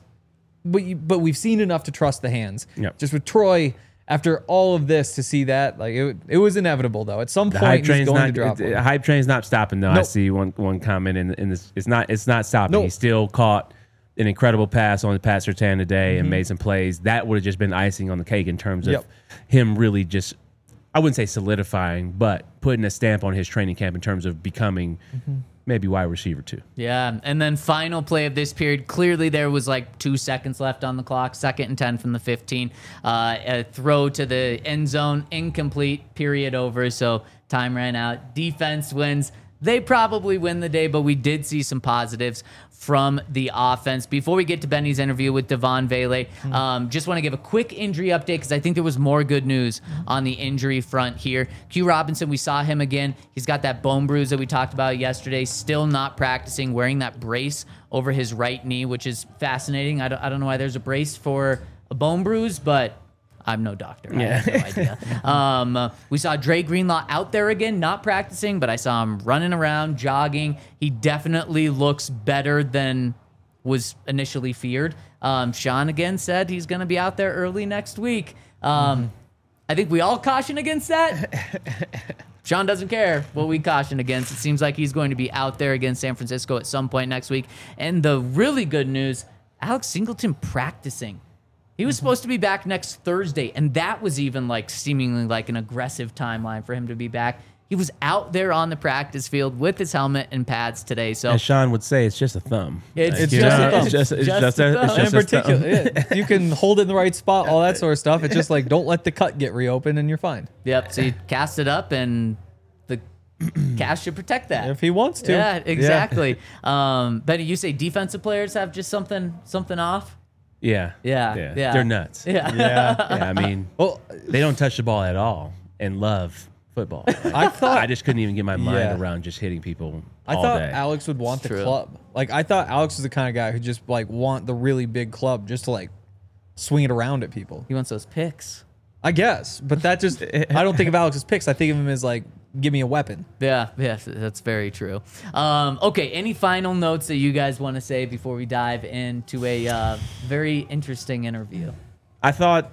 But we've seen enough to trust the hands. Yep. Just with Troy, after all of this, to see that, like it was inevitable though. At some The hype point, he's train's going not. to drop The one. hype train's not stopping though. I Nope. see one comment in this. It's not stopping. Nope. He still caught an incredible pass on the Pat Surtain today Mm-hmm. and made some plays. That would have just been icing on the cake in terms of Yep. him really just, I wouldn't say solidifying, but putting a stamp on his training camp in terms of becoming maybe wide receiver too. Yeah, and then final play of this period. Clearly, there was like 2 seconds left on the clock. 2nd and 10 from the 15. A throw to the end zone, incomplete. Period over. So time ran out. Defense wins. They probably win the day, but we did see some positives from the offense. Before we get to Benny's interview with Devon Vele, just want to give a quick injury update because I think there was more good news on the injury front here. Q Robinson, we saw him again. He's got that bone bruise that we talked about yesterday, still not practicing, wearing that brace over his right knee, which is fascinating. I don't know why there's a brace for a bone bruise, but I'm no doctor. I have no idea. We saw Dre Greenlaw out there again, not practicing, but I saw him running around, jogging. He definitely looks better than was initially feared. Sean again said he's going to be out there early next week. I think we all caution against that. Sean doesn't care what we caution against. It seems like he's going to be out there against San Francisco at some point next week. And the really good news, Alex Singleton practicing. He was supposed to be back next Thursday, and that was even like seemingly like an aggressive timeline for him to be back. He was out there on the practice field with his helmet and pads today. So As Sean would say, it's just a thumb. It's You just know, a thumb. It's just Just a thumb. In particular, yeah, you can hold it in the right spot, all that sort of stuff. It's just like, don't let the cut get reopened and you're fine. Yep. So he cast it up, and the cast should protect that. If he wants to. Yeah, exactly. Betty, you say defensive players have just something off? Yeah. Yeah. They're nuts. Yeah. Yeah, I mean, Well, they don't touch the ball at all and love football. I thought I just couldn't even get my mind Yeah. around just hitting people I all thought day. Alex would want the True. club. Like I thought Alex was the kind of guy who just like want the really big club just to like swing it around at people. He wants those picks. I guess, but that just I don't think of Alex's picks. I think of him as like, give me a weapon. Yeah, that's very true. Okay, any final notes that you guys want to say before we dive into a very interesting interview? I thought,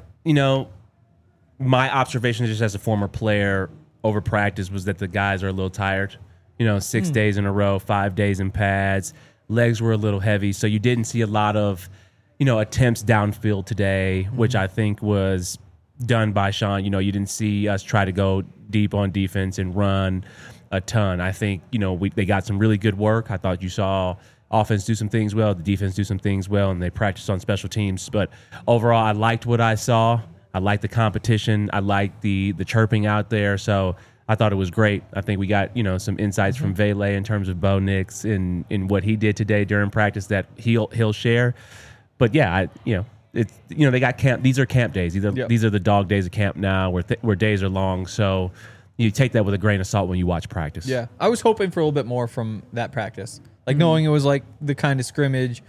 my observation just as a former player over practice was that the guys are a little tired. 6 days in a row, 5 days in pads, legs were a little heavy. So you didn't see a lot of, attempts downfield today, which I think was done by Sean. You didn't see us try to go deep on defense and run a ton. I think, they got some really good work. I thought you saw offense do some things well, the defense do some things well, and they practiced on special teams. But overall, I liked what I saw. I liked the competition. I liked the chirping out there. So I thought it was great. I think we got, some insights from Vele in terms of Bo Nix in what he did today during practice that he'll share. But yeah, it's they got camp. These are camp days. These are the dog days of camp now, where days are long. So you take that with a grain of salt when you watch practice. Yeah, I was hoping for a little bit more from that practice, like knowing it was like the kind of scrimmage.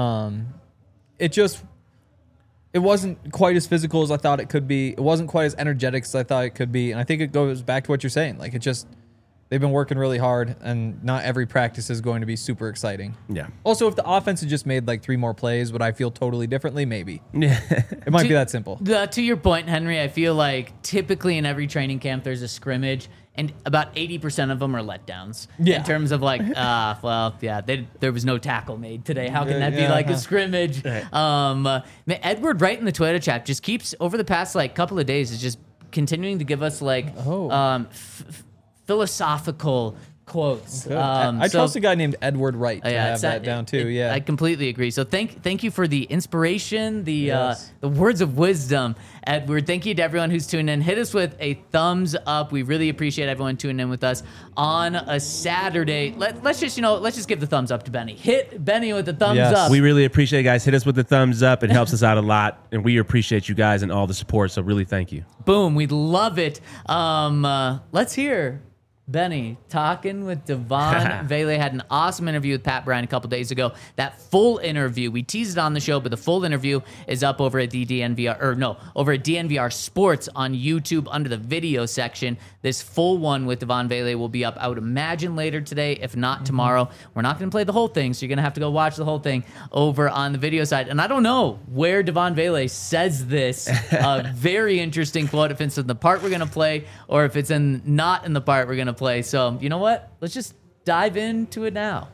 It wasn't quite as physical as I thought it could be. It wasn't quite as energetic as I thought it could be, and I think it goes back to what you're saying. Like They've been working really hard, and not every practice is going to be super exciting. Yeah. Also, if the offense had just made like 3 more plays, would I feel totally differently? Maybe. Yeah. It might be that simple. To your point, Henry, I feel like typically in every training camp there's a scrimmage, and about 80% of them are letdowns. Yeah. In terms of like, there was no tackle made today. How can that be Yeah, like a huh. scrimmage? Edward Wright in the Twitter chat just keeps, over the past like couple of days, is just continuing to give us like philosophical quotes. I trust a guy named Edward Wright to have it's that down too. Yeah. I completely agree. So thank you for the inspiration, Yes. the words of wisdom, Edward. Thank you to everyone who's tuned in. Hit us with a thumbs up. We really appreciate everyone tuning in with us on a Saturday. Let's just give the thumbs up to Benny. Hit Benny with the thumbs Yes. up. We really appreciate it, guys. Hit us with the thumbs up. It helps us out a lot, and we appreciate you guys and all the support. So really, thank you. Boom. We love it. Let's hear Benny talking with Devon Vele. Had an awesome interview with Pat Bryant a couple days ago. That full interview, we teased it on the show, but the full interview is up over at over at DNVR Sports on YouTube under the video section. This full one with Devon Vele will be up, I would imagine, later today, if not tomorrow. We're not going to play the whole thing, so you're going to have to go watch the whole thing over on the video side. And I don't know where Devon Vele says this very interesting quote, if it's in the part we're going to play or if it's not in the part we're going to play. So, you know what? Let's just dive into it now.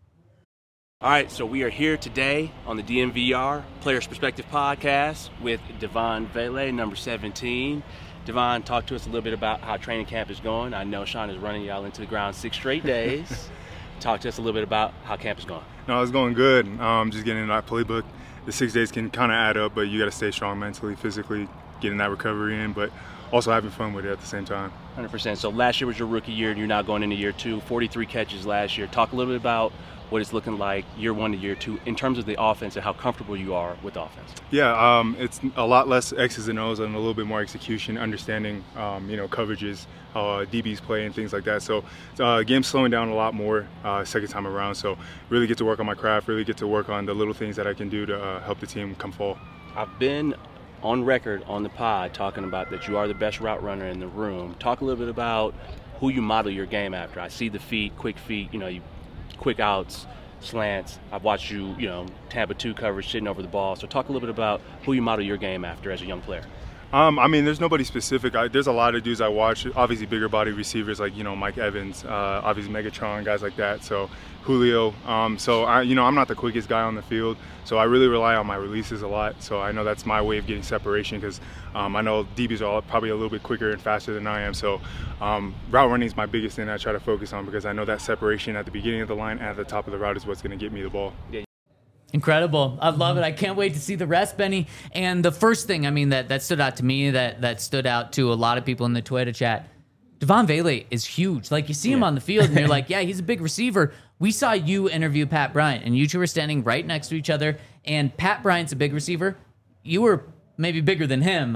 All right, so we are here today on the DNVR Players Perspective Podcast with Devon Vele, number 17. Devon, talk to us a little bit about how training camp is going. I know Sean is running y'all into the ground 6 straight days. Talk to us a little bit about how camp is going. No, it's going good. Just getting in that playbook. The 6 days can kind of add up, but you got to stay strong mentally, physically, getting that recovery in, but also having fun with it at the same time. 100%. So last year was your rookie year, and you're now going into year 2, 43 catches last year. Talk a little bit about what it's looking like year 1 to year 2 in terms of the offense and how comfortable you are with offense. Yeah, it's a lot less X's and O's and a little bit more execution, understanding, coverages, how DBs play and things like that. So game's slowing down a lot more second time around. So really get to work on my craft, really get to work on the little things that I can do to help the team come fall. I've been on record on the pod talking about that you are the best route runner in the room. Talk a little bit about who you model your game after. I see the quick feet, you quick outs, slants. I've watched you, Tampa 2 coverage, sitting over the ball. So talk a little bit about who you model your game after as a young player. There's nobody specific. There's a lot of dudes I watch, obviously bigger body receivers like, Mike Evans, obviously Megatron, guys like that. So Julio. I'm not the quickest guy on the field. So I really rely on my releases a lot. So I know that's my way of getting separation because I know DBs are probably a little bit quicker and faster than I am. So route running is my biggest thing I try to focus on because I know that separation at the beginning of the line and at the top of the route is what's going to get me the ball. Yeah. Incredible. I love it. I can't wait to see the rest, Benny. And the first thing, that stood out to me, that stood out to a lot of people in the Twitter chat, Devon Vele is huge. Like, you see him on the field, and you're like, yeah, he's a big receiver. We saw you interview Pat Bryant, and you two were standing right next to each other, and Pat Bryant's a big receiver. You were maybe bigger than him.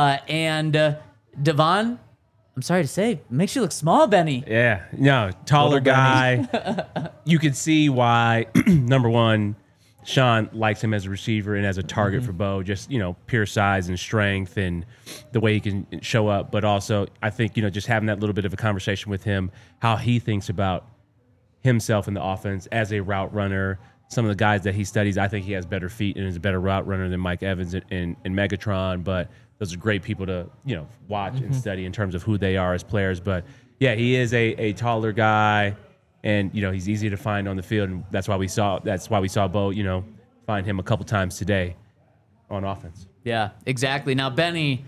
Yeah. Devon, I'm sorry to say, makes you look small, Benny. Yeah, no, taller guy. You can see why, number one, Sean likes him as a receiver and as a target for Bo, just, pure size and strength and the way he can show up. But also, I think, just having that little bit of a conversation with him, how he thinks about himself in the offense as a route runner. Some of the guys that he studies, I think he has better feet and is a better route runner than Mike Evans and Megatron. But those are great people to, watch and study in terms of who they are as players. But, yeah, he is a taller guy. And he's easy to find on the field, and that's why we saw Bo, find him a couple times today on offense. Yeah, exactly. Now, Benny,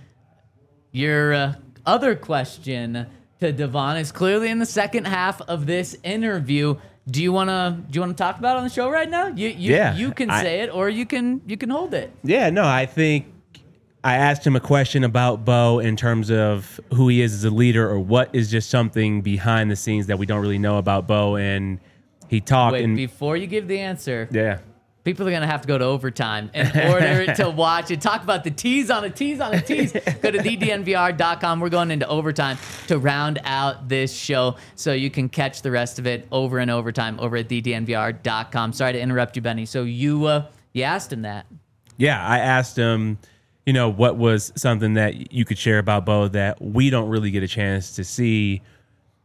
your other question to Devon is clearly in the second half of this interview. Do you wanna talk about it on the show right now? You can say it, or you can hold it. Yeah, no, I think I asked him a question about Bo in terms of who he is as a leader or what is just something behind the scenes that we don't really know about Bo. And he talked. Wait, before you give the answer, yeah, people are going to have to go to overtime in order to watch it. Talk about the tease on a tease on a tease. Go to thednvr.com. We're going into overtime to round out this show so you can catch the rest of it over and overtime over at thednvr.com. Sorry to interrupt you, Benny. So you asked him that. Yeah, I asked him, what was something that you could share about Bo that we don't really get a chance to see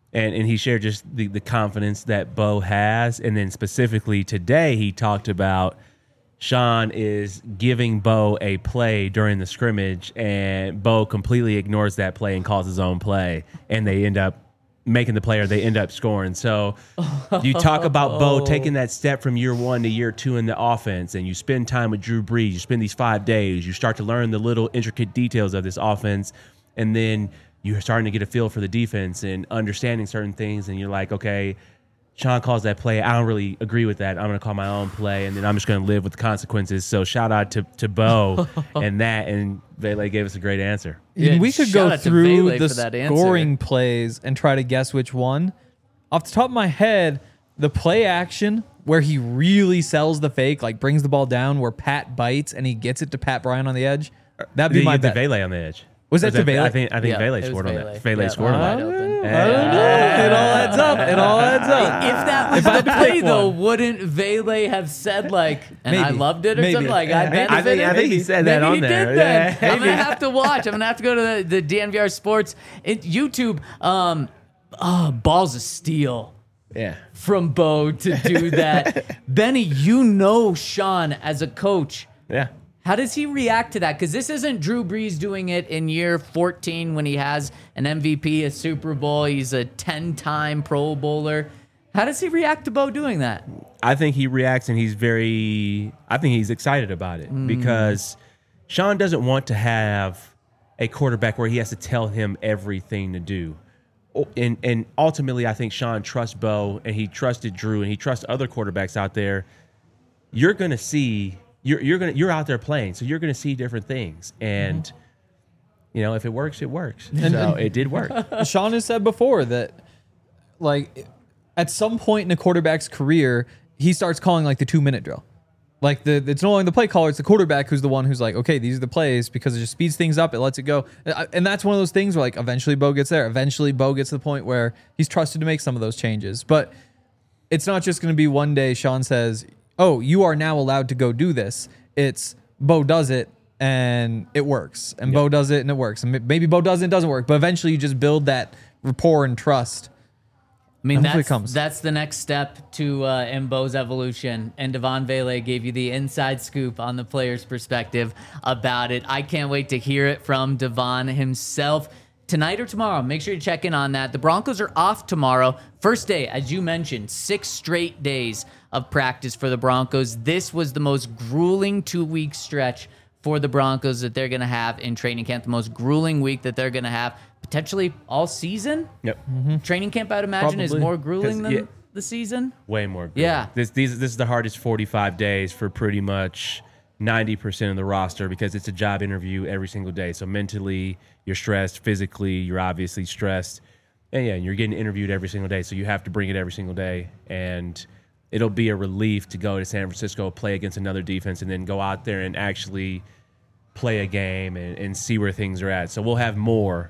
And he shared just the confidence that Bo has. And then specifically today, he talked about Sean is giving Bo a play during the scrimmage, and Bo completely ignores that play and calls his own play, and they end up making the play, or they end up scoring. So you talk about Bo taking that step from year 1 to year 2 in the offense, and you spend time with Drew Brees. You spend these 5 days. You start to learn the little intricate details of this offense, and then you're starting to get a feel for the defense and understanding certain things, and you're like, okay, Sean calls that play. I don't really agree with that. I'm going to call my own play, and then I'm just going to live with the consequences. So shout out to Bo and that, and Vele gave us a great answer. Yeah, we could shout go out to through Vele the for that answer. scoring plays and try to guess which one. Off the top of my head, the play action where he really sells the fake, like brings the ball down where Pat bites and he gets it to Pat Bryant on the edge. That'd be my the bet. Vele on the edge. Was that to Vele? I think Yeah, Vele it was scored on Vele. that. Vele Yeah, scored on wide that. open. I don't know. It all adds up. It all adds up. If that was If I the had to play, pick though, one. wouldn't Vele have said, like, and I Maybe. loved it or Maybe. something? Like, I I benefited? I think he said that Maybe on he there. did then. Yeah, I'm going to have to watch. I'm going to have to go to the DNVR Sports YouTube. Balls of steel Yeah. from Bo to do that. Benny, you know Sean as a coach. Yeah. How does he react to that? Because this isn't Drew Brees doing it in year 14 when he has an MVP, a Super Bowl. He's a 10-time Pro Bowler. How does he react to Bo doing that? I think he reacts, and I think he's excited about it because Sean doesn't want to have a quarterback where he has to tell him everything to do. And ultimately, I think Sean trusts Bo, and he trusted Drew, and he trusts other quarterbacks out there. You're going to see, you're out there playing, so you're going to see different things. And, if it works, it works. So it did work. Sean has said before that, like, at some point in a quarterback's career, he starts calling like the 2-minute drill. Like it's no longer the play caller; it's the quarterback who's the one who's like, okay, these are the plays, because it just speeds things up, it lets it go, and that's one of those things where like eventually Bo gets there. Eventually, Bo gets to the point where he's trusted to make some of those changes. But it's not just going to be one day Sean says, "Oh, you are now allowed to go do this." It's Bo does it and it works, and Bo does it and it works, and maybe Bo does it and it doesn't work, but eventually you just build that rapport and trust. I mean, Hopefully it comes. that's the next step to in Bo's evolution. And Devon Vele gave you the inside scoop on the player's perspective about it. I can't wait to hear it from Devon himself tonight or tomorrow. Make sure you check in on that. The Broncos are off tomorrow. First day, as you mentioned, 6 straight days of practice for the Broncos. This was the most grueling 2-week stretch for the Broncos that they're going to have in training camp, the most grueling week that they're going to have potentially all season. Yep. Training camp, I'd imagine, is Probably. more grueling 'Cause, than the season. Way more. Good. Yeah. This is the hardest 45 days for pretty much 90% of the roster, because it's a job interview every single day. So mentally, you're stressed. Physically, you're obviously stressed. And you're getting interviewed every single day. So you have to bring it every single day. And it'll be a relief to go to San Francisco, play against another defense, and then go out there and actually play a game and see where things are at. So we'll have more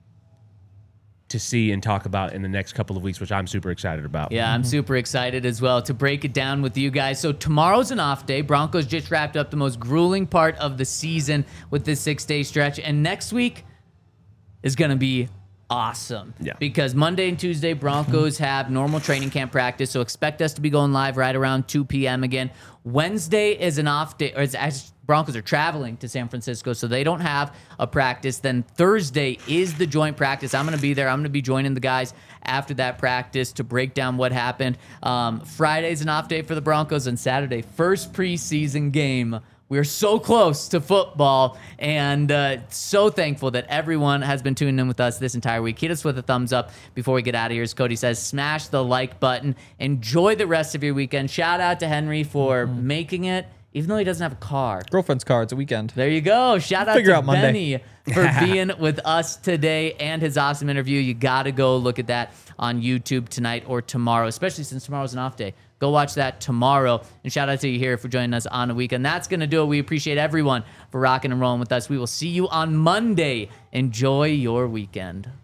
to see and talk about in the next couple of weeks, which I'm super excited about. Yeah, I'm super excited as well to break it down with you guys. So tomorrow's an off day. Broncos just wrapped up the most grueling part of the season with this 6-day stretch. And next week is going to be awesome. Yeah. Because Monday and Tuesday, Broncos have normal training camp practice. So expect us to be going live right around 2 p.m. again. Wednesday is an off day, or it's Broncos are traveling to San Francisco, so they don't have a practice. Then Thursday is the joint practice. I'm going to be there. I'm going to be joining the guys after that practice to break down what happened. Friday's an off day for the Broncos, and Saturday, first preseason game. We're so close to football, and so thankful that everyone has been tuning in with us this entire week. Hit us with a thumbs up before we get out of here. As Cody says, smash the like button. Enjoy the rest of your weekend. Shout out to Henry for making it, even though he doesn't have a car. Girlfriend's car. It's a weekend. There you go. Shout out Figure to out Monday. Benny for being with us today and his awesome interview. You got to go look at that on YouTube tonight or tomorrow, especially since tomorrow's an off day. Go watch that tomorrow. And shout out to you here for joining us on a weekend. That's going to do it. We appreciate everyone for rocking and rolling with us. We will see you on Monday. Enjoy your weekend.